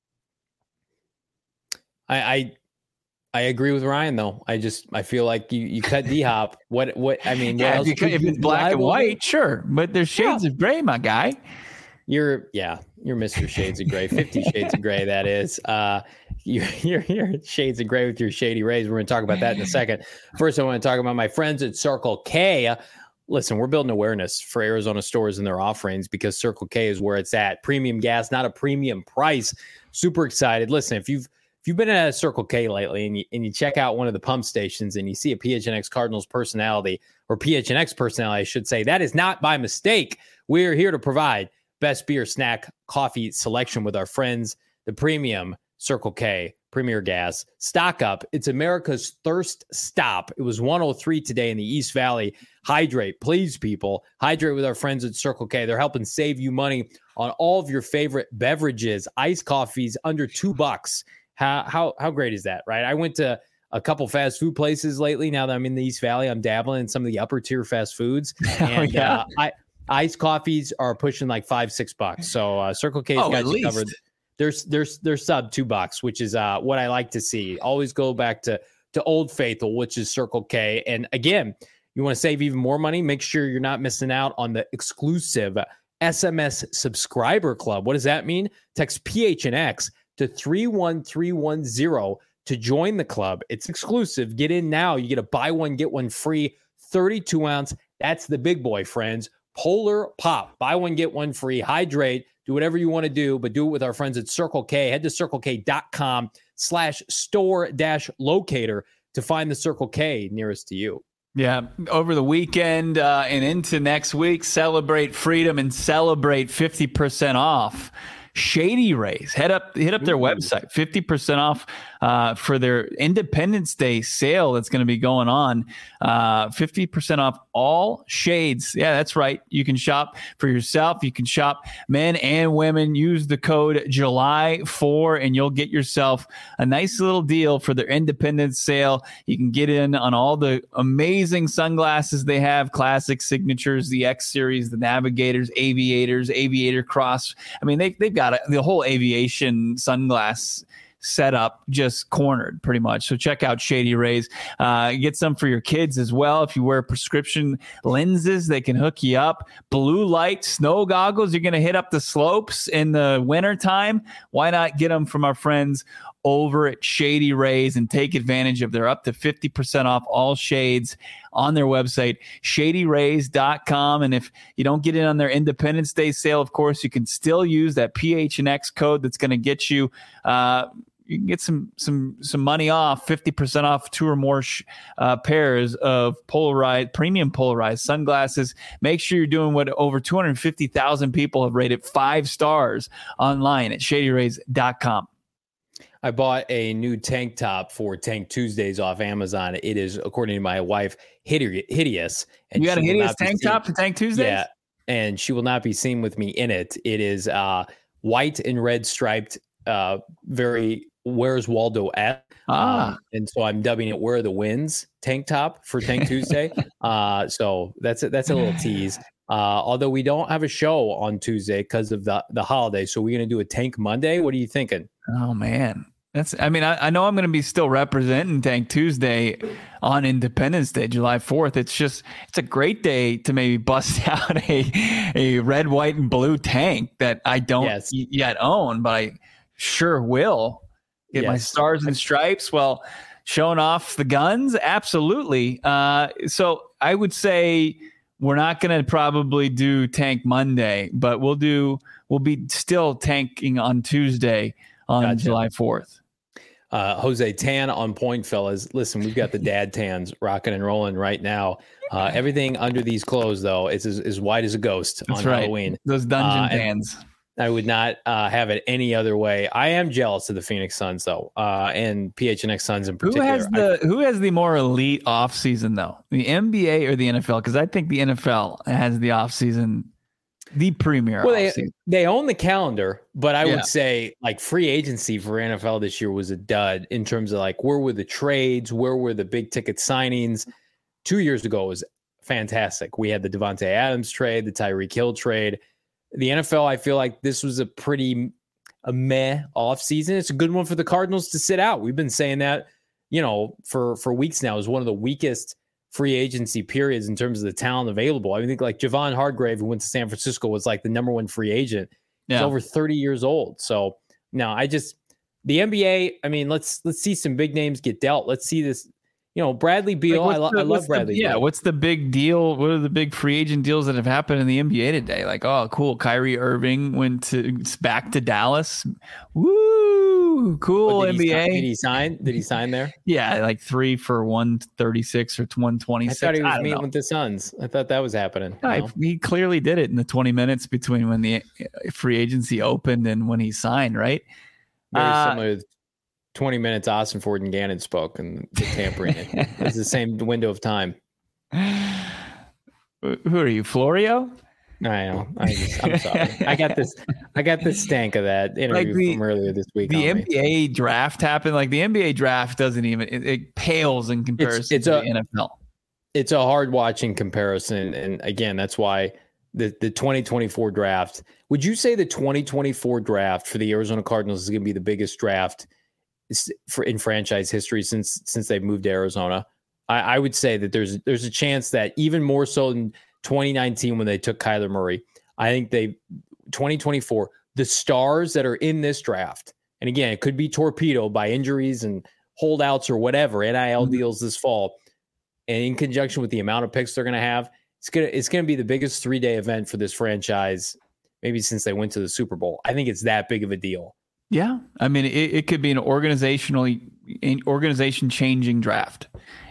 I, I I agree with Ryan though. I just I feel like you, you cut D-Hop. What what I mean? Yeah, what if, you, if it's black and white, sure, but there's shades yeah. of gray, my guy. You're yeah, you're Mister Shades of Gray, Fifty Shades of Gray. That is. Uh, You're, you're, you're shades of gray with your shady rays. We're going to talk about that in a second. First, I want to talk about my friends at Circle K. Listen, we're building awareness for Arizona stores and their offerings because Circle K is where it's at. Premium gas, not a premium price. Super excited. Listen, if you've if you've been at a Circle K lately and you, and you check out one of the pump stations and you see a P H N X Cardinals personality or P H N X personality, I should say, that is not by mistake. We're here to provide best beer, snack, coffee selection with our friends, the premium Circle K, Premier Gas. Stock up. It's America's thirst stop. It was one oh three today in the East Valley. Hydrate, please, people. Hydrate with our friends at Circle K. They're helping save you money on all of your favorite beverages. Iced coffees under two bucks. How how how great is that, right? I went to a couple fast food places lately. Now that I'm in the East Valley, I'm dabbling in some of the upper tier fast foods. And oh, yeah. uh, I, iced coffees are pushing like five, six bucks. So uh, Circle K's oh, got you covered. There's there's there's sub two bucks, which is uh, what I like to see. Always go back to to Old Faithful, which is Circle K. And again, you want to save even more money? Make sure you're not missing out on the exclusive S M S subscriber club. What does that mean? Text P H N X to three one three one zero to join the club. It's exclusive. Get in now. You get a buy one, get one free thirty-two ounce. That's the big boy, friends. Polar Pop. Buy one, get one free. Hydrate. Do whatever you want to do, but do it with our friends at Circle K. Head to circlek.com slash store dash locator to find the Circle K nearest to you. Yeah, over the weekend uh, and into next week, celebrate freedom and celebrate fifty percent off. Shady Rays, head up, hit up their Ooh. website, fifty percent off uh, for their Independence Day sale that's going to be going on. Uh, fifty percent off all shades. Yeah, that's right. You can shop for yourself. You can shop men and women. Use the code July four and you'll get yourself a nice little deal for their Independence sale. You can get in on all the amazing sunglasses they have, classic signatures, the X series, the Navigators, Aviators, Aviator Cross. I mean, they, they've got a, the whole aviation sunglass setup just cornered pretty much. So check out Shady Rays. Uh, get some for your kids as well. If you wear prescription lenses, they can hook you up. Blue light snow goggles. You're going to hit up the slopes in the wintertime. Why not get them from our friends over at Shady Rays and take advantage of their up to fifty percent off all shades on their website, shady rays dot com. And if you don't get in on their Independence Day sale, of course, you can still use that P H N X code that's going to get you uh, you can get some some some money off, fifty percent off two or more sh- uh, pairs of polarized, premium polarized sunglasses. Make sure you're doing what over two hundred fifty thousand people have rated five stars online at shady rays dot com. I bought a new tank top for Tank Tuesdays off Amazon. It is, according to my wife, hideous. And you got a hideous tank top for Tank Tuesdays? Yeah, and she will not be seen with me in it. It is uh, white and red striped, uh, very Where's Waldo at? Ah. Um, and so I'm dubbing it Where Are the Winds tank top for Tank Tuesday. uh, so that's a, that's a little tease. Uh, although we don't have a show on Tuesday because of the, the holiday. So we're going to do a Tank Monday. What are you thinking? Oh, man. That's, I mean, I, I know I'm going to be still representing Tank Tuesday on Independence Day, July fourth. It's just, it's a great day to maybe bust out a, a red, white, and blue tank that I don't yes. y- yet own, but I sure will get yes. my stars and stripes. Well, showing off the guns. Absolutely. Uh, so I would say we're not going to probably do Tank Monday, but we'll do, we'll be still tanking on Tuesday on gotcha. July fourth. Uh, Jose, tan on point, fellas. Listen, we've got the dad tans rocking and rolling right now. Uh, everything under these clothes, though, is as, as white as a ghost That's on right. Halloween. Those dungeon uh, tans. I would not uh, have it any other way. I am jealous of the Phoenix Suns, though, uh, and P H N X Suns in particular. Who has the I, Who has the more elite offseason, though? The N B A or the N F L? Because I think the N F L has the offseason, the premier well, offseason. They, they own the calendar, but I yeah. would say like free agency for N F L this year was a dud in terms of like where were the trades, where were the big ticket signings. Two years ago was fantastic. We had the Devontae Adams trade, the Tyreek Hill trade. The N F L, I feel like this was a pretty a meh offseason. It's a good one for the Cardinals to sit out. We've been saying that, you know, for, for weeks now is one of the weakest free agency periods in terms of the talent available. I think like Javon Hargrave, who went to San Francisco, was like the number one free agent. He's yeah. over thirty years old. So no, I just the N B A. I mean, let's let's see some big names get dealt. Let's see this. You know, Bradley Beal. Like I, lo- the, I love Bradley. The, yeah, Beal. What's the big deal? What are the big free agent deals that have happened in the N B A today? Like, oh, cool. Kyrie Irving went to back to Dallas. Woo, cool N B A. Sign, did he sign? Did he sign there? Yeah, like three for one thirty six or one twenty six. I thought he was I meeting know. with the Suns. I thought that was happening. Yeah, no? He clearly did it in the twenty minutes between when the free agency opened and when he signed. Right. Very uh, similar. twenty minutes Austin Ford and Gannon spoke and the tampering it. It's the same window of time. Who are you, Florio? I know. I just, I'm sorry. I got this. I got this stank of that interview like the, from earlier this week. The N B A me. draft happened. Like the N B A draft doesn't even. It, it pales in comparison it's, it's to a, the N F L. It's a hard watching comparison, and again, that's why the the twenty twenty-four draft. Would you say the twenty twenty-four draft for the Arizona Cardinals is going to be the biggest draft for in franchise history since since they've moved to Arizona? I, I would say that there's there's a chance that even more so than twenty nineteen when they took Kyler Murray. I think they twenty twenty-four, the stars that are in this draft, and again, it could be torpedoed by injuries and holdouts or whatever, N I L mm-hmm. deals this fall, and in conjunction with the amount of picks they're going to have, it's gonna it's gonna be the biggest three day event for this franchise, maybe since they went to the Super Bowl. I think it's that big of a deal. Yeah, I mean, it, it could be an organizationally organization changing draft,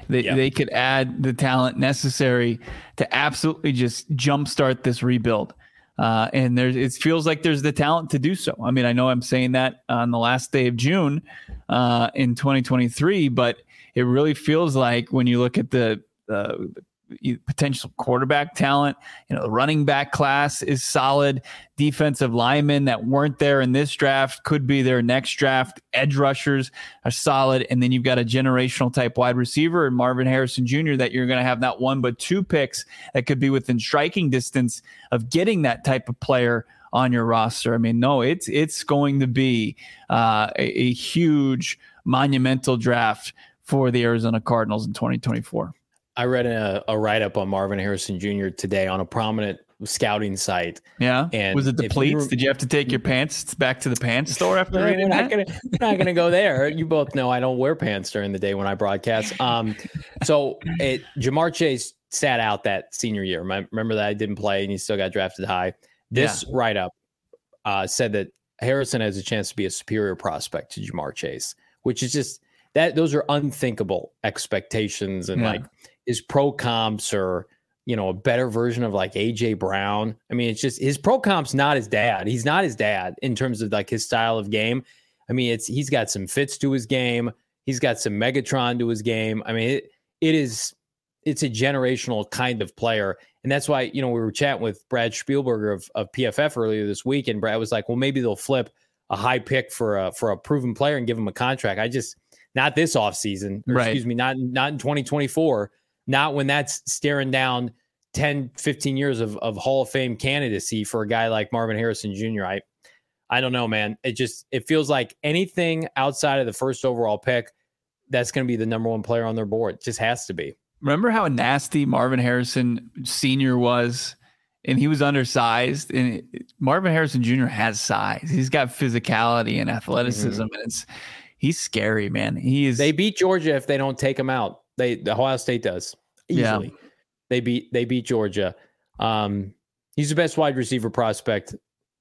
They, Yep. they could add the talent necessary to absolutely just jumpstart this rebuild. Uh, and there's, it feels like there's the talent to do so. I mean, I know I'm saying that on the last day of June uh, in twenty twenty-three, but it really feels like when you look at the, uh, the potential quarterback talent, you know, the running back class is solid. Defensive linemen that weren't there in this draft could be their next draft. Edge rushers are solid. And then you've got a generational type wide receiver and Marvin Harrison Junior that you're going to have not one, but two picks that could be within striking distance of getting that type of player on your roster. I mean, no, it's, it's going to be uh, a, a huge monumental draft for the Arizona Cardinals in twenty twenty-four. I read a, a write-up on Marvin Harrison Junior today on a prominent scouting site. Yeah. And was it the if pleats? you were- Did you have to take your pants back to the pants store after We're reading not that? gonna, we're not gonna go there. You both know I don't wear pants during the day when I broadcast. Um, so it, Jamar Chase sat out that senior year. Remem- Remember that I didn't play and he still got drafted high. This Yeah. write-up uh, said that Harrison has a chance to be a superior prospect to Jamar Chase, which is just that those are unthinkable expectations and Yeah. like his pro comps are, you know, a better version of like A J Brown. I mean, it's just his pro comp's not his dad. He's not his dad in terms of like his style of game. I mean, it's he's got some fits to his game. He's got some Megatron to his game. I mean, it it is it's a generational kind of player. And that's why, you know, we were chatting with Brad Spielberger of, of P F F earlier this week, and Brad was like, well, maybe they'll flip a high pick for a for a proven player and give him a contract. I just not this offseason, or Right. excuse me, not not in twenty twenty-four. Not when that's staring down ten, fifteen years of, of Hall of Fame candidacy for a guy like Marvin Harrison Junior I I don't know, man. It just it feels like anything outside of the first overall pick, that's going to be the number one player on their board. It just has to be. Remember how nasty Marvin Harrison Senior was? And he was undersized. And it, Marvin Harrison Junior has size. He's got physicality and athleticism. Mm-hmm. And it's he's scary, man. He is. They beat Georgia if they don't take him out. They the Ohio State does easily. Yeah. They beat they beat Georgia. Um, he's the best wide receiver prospect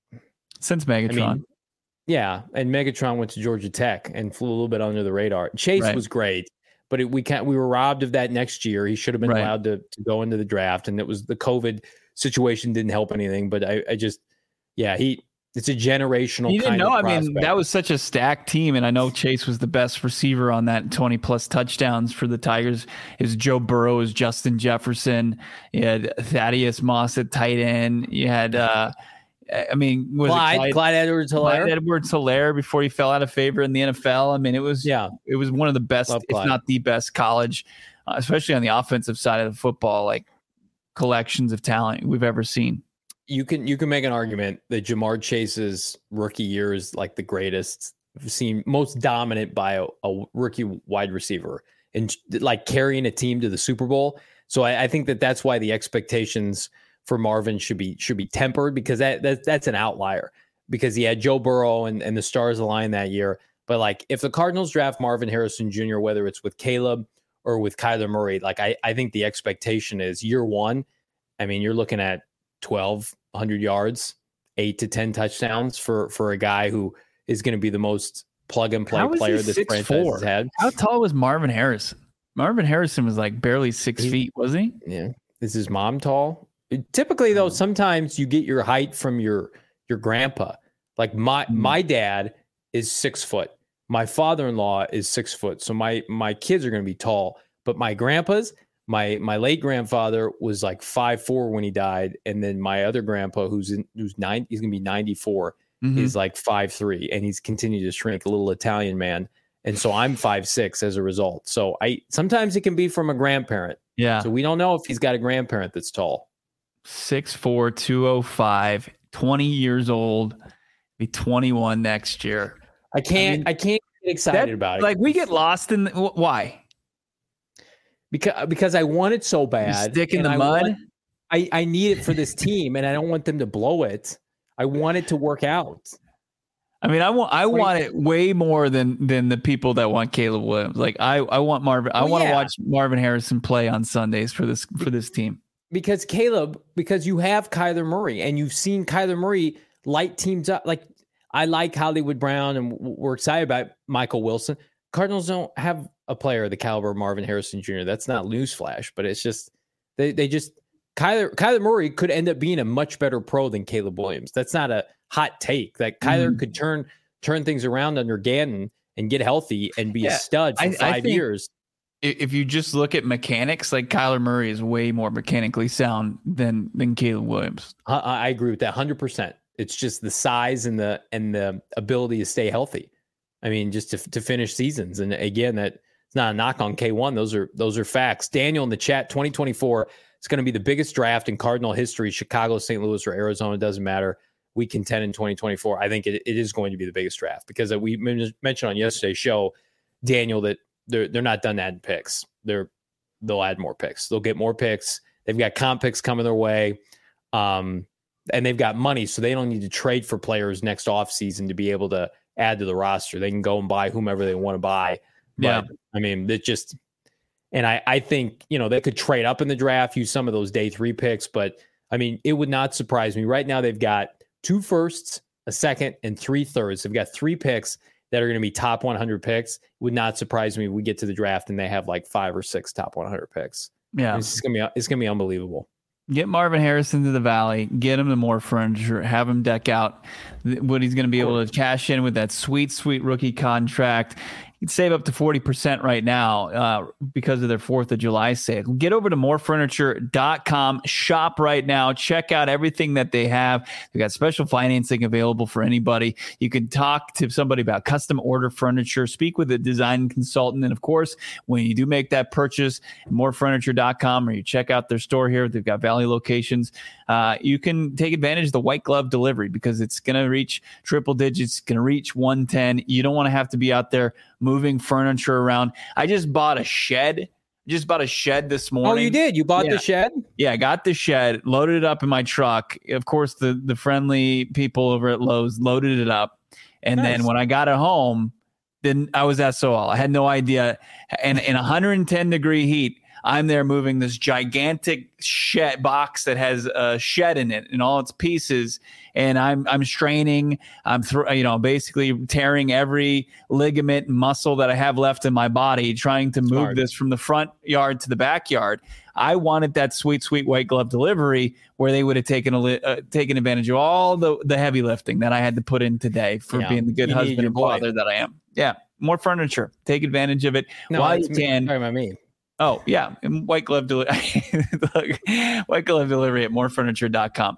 since Megatron. I mean, yeah, and Megatron went to Georgia Tech and flew a little bit under the radar. Chase Right. was great, but it, we can't. We were robbed of that next year. He should have been Right. allowed to, to go into the draft, and it was the COVID situation didn't help anything. But I, I just, yeah, he. It's a generational. You didn't kind know. of I prospect. mean, that was such a stacked team, and I know Chase was the best receiver on that twenty plus touchdowns for the Tigers. It was Joe Burrow, it was Justin Jefferson. You had Thaddeus Moss at tight end. You had, uh, I mean, was Clyde, it Clyde, Clyde Edwards-Helaire. Clyde Edwards-Helaire before he fell out of favor in the N F L. I mean, it was Yeah. it was one of the best, Love if Clyde. not the best, college, uh, especially on the offensive side of the football, like collections of talent we've ever seen. You can you can make an argument that Jamar Chase's rookie year is like the greatest I've seen, most dominant by a, a rookie wide receiver, and like carrying a team to the Super Bowl. So I, I think that that's why the expectations for Marvin should be should be tempered, because that, that that's an outlier, because he had Joe Burrow and, and the stars aligned that year. But like if the Cardinals draft Marvin Harrison Junior, whether it's with Caleb or with Kyler Murray, like I, I think the expectation is year one. I mean, you're looking at twelve hundred yards, eight to ten touchdowns for, for a guy who is going to be the most plug and play How is he player this six franchise four? has had. How tall was Marvin Harrison? Marvin Harrison was like barely six He- feet, wasn't he? Yeah. Is his mom tall? Typically though, sometimes you get your height from your, your grandpa. Like my, Hmm. my dad is six foot. My father-in-law is six foot. So my, my kids are going to be tall, but my grandpa's, My my late grandfather was like five four when he died, and then my other grandpa, who's in who's nine, he's gonna be ninety-four, Mhm. is like five three, and he's continued to shrink, a little Italian man, and so I'm five six as a result. So I sometimes it can be from a grandparent. Yeah. So we don't know if he's got a grandparent that's tall. six four, two oh five, twenty years old, be twenty-one next year. I can't mean, I, can't get excited That- about it. Like we get lost in the, wh- why? because because I want it so You bad. stick in and the I mud. want- I, I need it for this team, and I don't want them to blow it. I want it to work out. I mean, I want I What do you want think? it way more than than the people that want Caleb Williams. Like I I want Marvin. I Well, want to yeah. watch Marvin Harrison play on Sundays for this for this team. Because Caleb, because you have Kyler Murray, and you've seen Kyler Murray light teams up. Like I like Hollywood Brown, and w- we're excited about Michael Wilson. Cardinals don't have a player of the caliber of Marvin Harrison Junior That's not newsflash, but it's just they they just Kyler Kyler Murray could end up being a much better pro than Caleb Williams. That's not a hot take. That Kyler mm. could turn turn things around under Gannon and get healthy and be yeah, a stud for I, five I years. If you just look at mechanics, like Kyler Murray is way more mechanically sound than than Caleb Williams. I, I agree with that one hundred percent. It's just the size and the and the ability to stay healthy. I mean, just to to finish seasons. And again, that it's not a knock on K one. Those are those are facts. Daniel in the chat, twenty twenty-four is going to be the biggest draft in Cardinal history. Chicago, Saint Louis, or Arizona, doesn't matter. We contend in twenty twenty-four. I think it, it is going to be the biggest draft because we mentioned on yesterday's show, Daniel, that they're they're not done adding picks. They're they'll add more picks. They'll get more picks. They've got comp picks coming their way, um, and they've got money, so they don't need to trade for players next offseason to be able to add to the roster. They can go and buy whomever they want to buy. But, yeah, I mean, it just and I I think you know they could trade up in the draft, use some of those day three picks, but I mean, it would not surprise me. Right now, they've got two firsts, a second, and three thirds. They've got three picks that are going to be top one hundred picks. It would not surprise me if we get to the draft and they have like five or six top one hundred picks. Yeah, it's going to be it's going to be unbelievable. Get Marvin Harrison to the Valley, get him the more furniture, have him deck out what he's going to be able to cash in with that sweet, sweet rookie contract. You can save up to forty percent right now uh, because of their fourth of July sale. Get over to more furniture dot com. Shop right now. Check out everything that they have. They've got special financing available for anybody. You can talk to somebody about custom order furniture, speak with a design consultant. And, of course, when you do make that purchase at more furniture dot com or you check out their store here, they've got Valley locations, uh, you can take advantage of the white glove delivery because it's going to reach triple digits, going to reach one ten. You don't want to have to be out there moving furniture around. I just bought a shed. Just bought a shed this morning. Oh, you did? You bought yeah. the shed? Yeah, I got the shed, loaded it up in my truck. Of course, the the friendly people over at Lowe's loaded it up. And nice. Then when I got it home, then I was S O L. I had no idea. And in one hundred ten degree heat, I'm there moving this gigantic shed box that has a shed in it and all its pieces. And I'm I'm straining. I'm th- you know basically tearing every ligament and muscle that I have left in my body, trying to move Smart. This from the front yard to the backyard. I wanted that sweet, sweet white glove delivery where they would have taken a li- uh, taken advantage of all the the heavy lifting that I had to put in today for yeah. being the good you husband and father that I am. Yeah, more furniture. Take advantage of it no, while you can. Sorry about me. Oh, yeah. And white glove delivery. White glove delivery at more furniture dot com.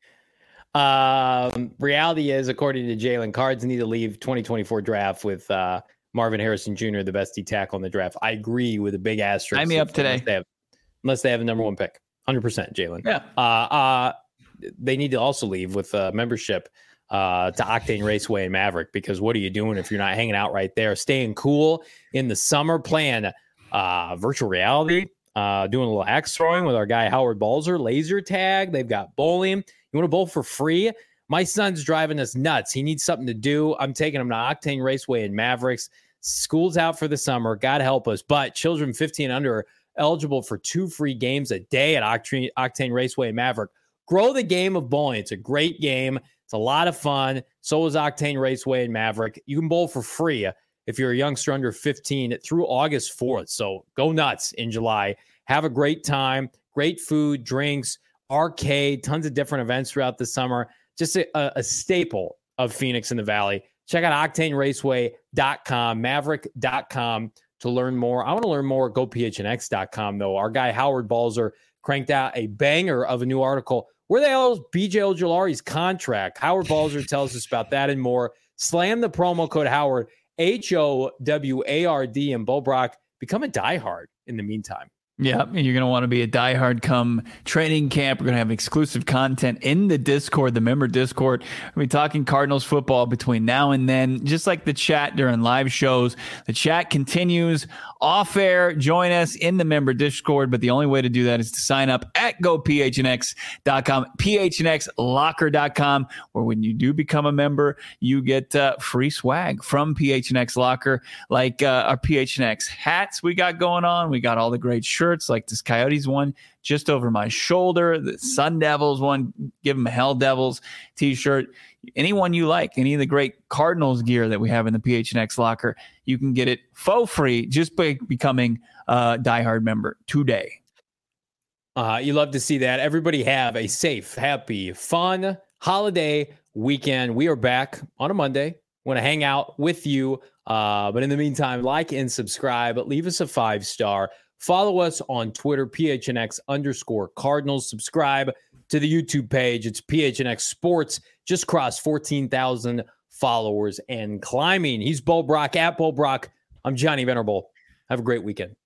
Um, reality is, according to Jalen, Cards need to leave twenty twenty-four draft with uh, Marvin Harrison Junior, the best D tackle in the draft. I agree with a big asterisk. Sign me up today. Unless they have, unless they have a number one pick. one hundred percent, Jalen. Yeah. Uh, uh, they need to also leave with uh, membership uh, to Octane Raceway and Maverick, because what are you doing if you're not hanging out right there, staying cool in the summer, playing uh, virtual reality, uh, doing a little axe throwing with our guy Howard Balzer, laser tag. They've got bowling. You want to bowl for free? My son's driving us nuts. He needs something to do. I'm taking him to Octane Raceway and Mavericks. School's out for the summer. God help us. But children fifteen and under are eligible for two free games a day at Octane, Octane Raceway and Maverick. Grow the game of bowling. It's a great game. It's a lot of fun. So is Octane Raceway and Maverick. You can bowl for free if you're a youngster under fifteen through August fourth. So go nuts in July. Have a great time. Great food, drinks, arcade, tons of different events throughout the summer. Just a, a staple of Phoenix in the Valley. Check out octane raceway dot com, maverick dot com to learn more. I want to learn more at go p h n x dot com, though. Our guy Howard Balzer cranked out a banger of a new article. Where the hell is B J Ojulari's contract? Howard Balzer tells us about that and more. Slam the promo code Howard, H O W A R D, and Bo Brock. Become a diehard in the meantime. Yeah, you're going to want to be a diehard come training camp. We're going to have exclusive content in the Discord, the member Discord. We'll be talking Cardinals football between now and then, just like the chat during live shows. The chat continues off air. Join us in the member Discord, but the only way to do that is to sign up at go p h n x dot com, p h n x locker dot com, where when you do become a member, you get uh, free swag from P H N X Locker, like uh, our P H N X hats we got going on. We got all the great shirts. shirts like this Coyotes one just over my shoulder, the Sun Devils one, give them a Hell Devils t-shirt. Anyone you like, any of the great Cardinals gear that we have in the P H N X locker, you can get it for free just by becoming a diehard member today. Uh, you love to see that. Everybody have a safe, happy, fun holiday weekend. We are back on a Monday. Want to hang out with you. Uh, but in the meantime, like and subscribe. Leave us a five star. Follow us on Twitter, P H N X underscore Cardinals. Subscribe to the YouTube page. It's P H N X Sports. Just crossed fourteen thousand followers and climbing. He's Bo Brock at Bo Brock. I'm Johnny Venerable. Have a great weekend.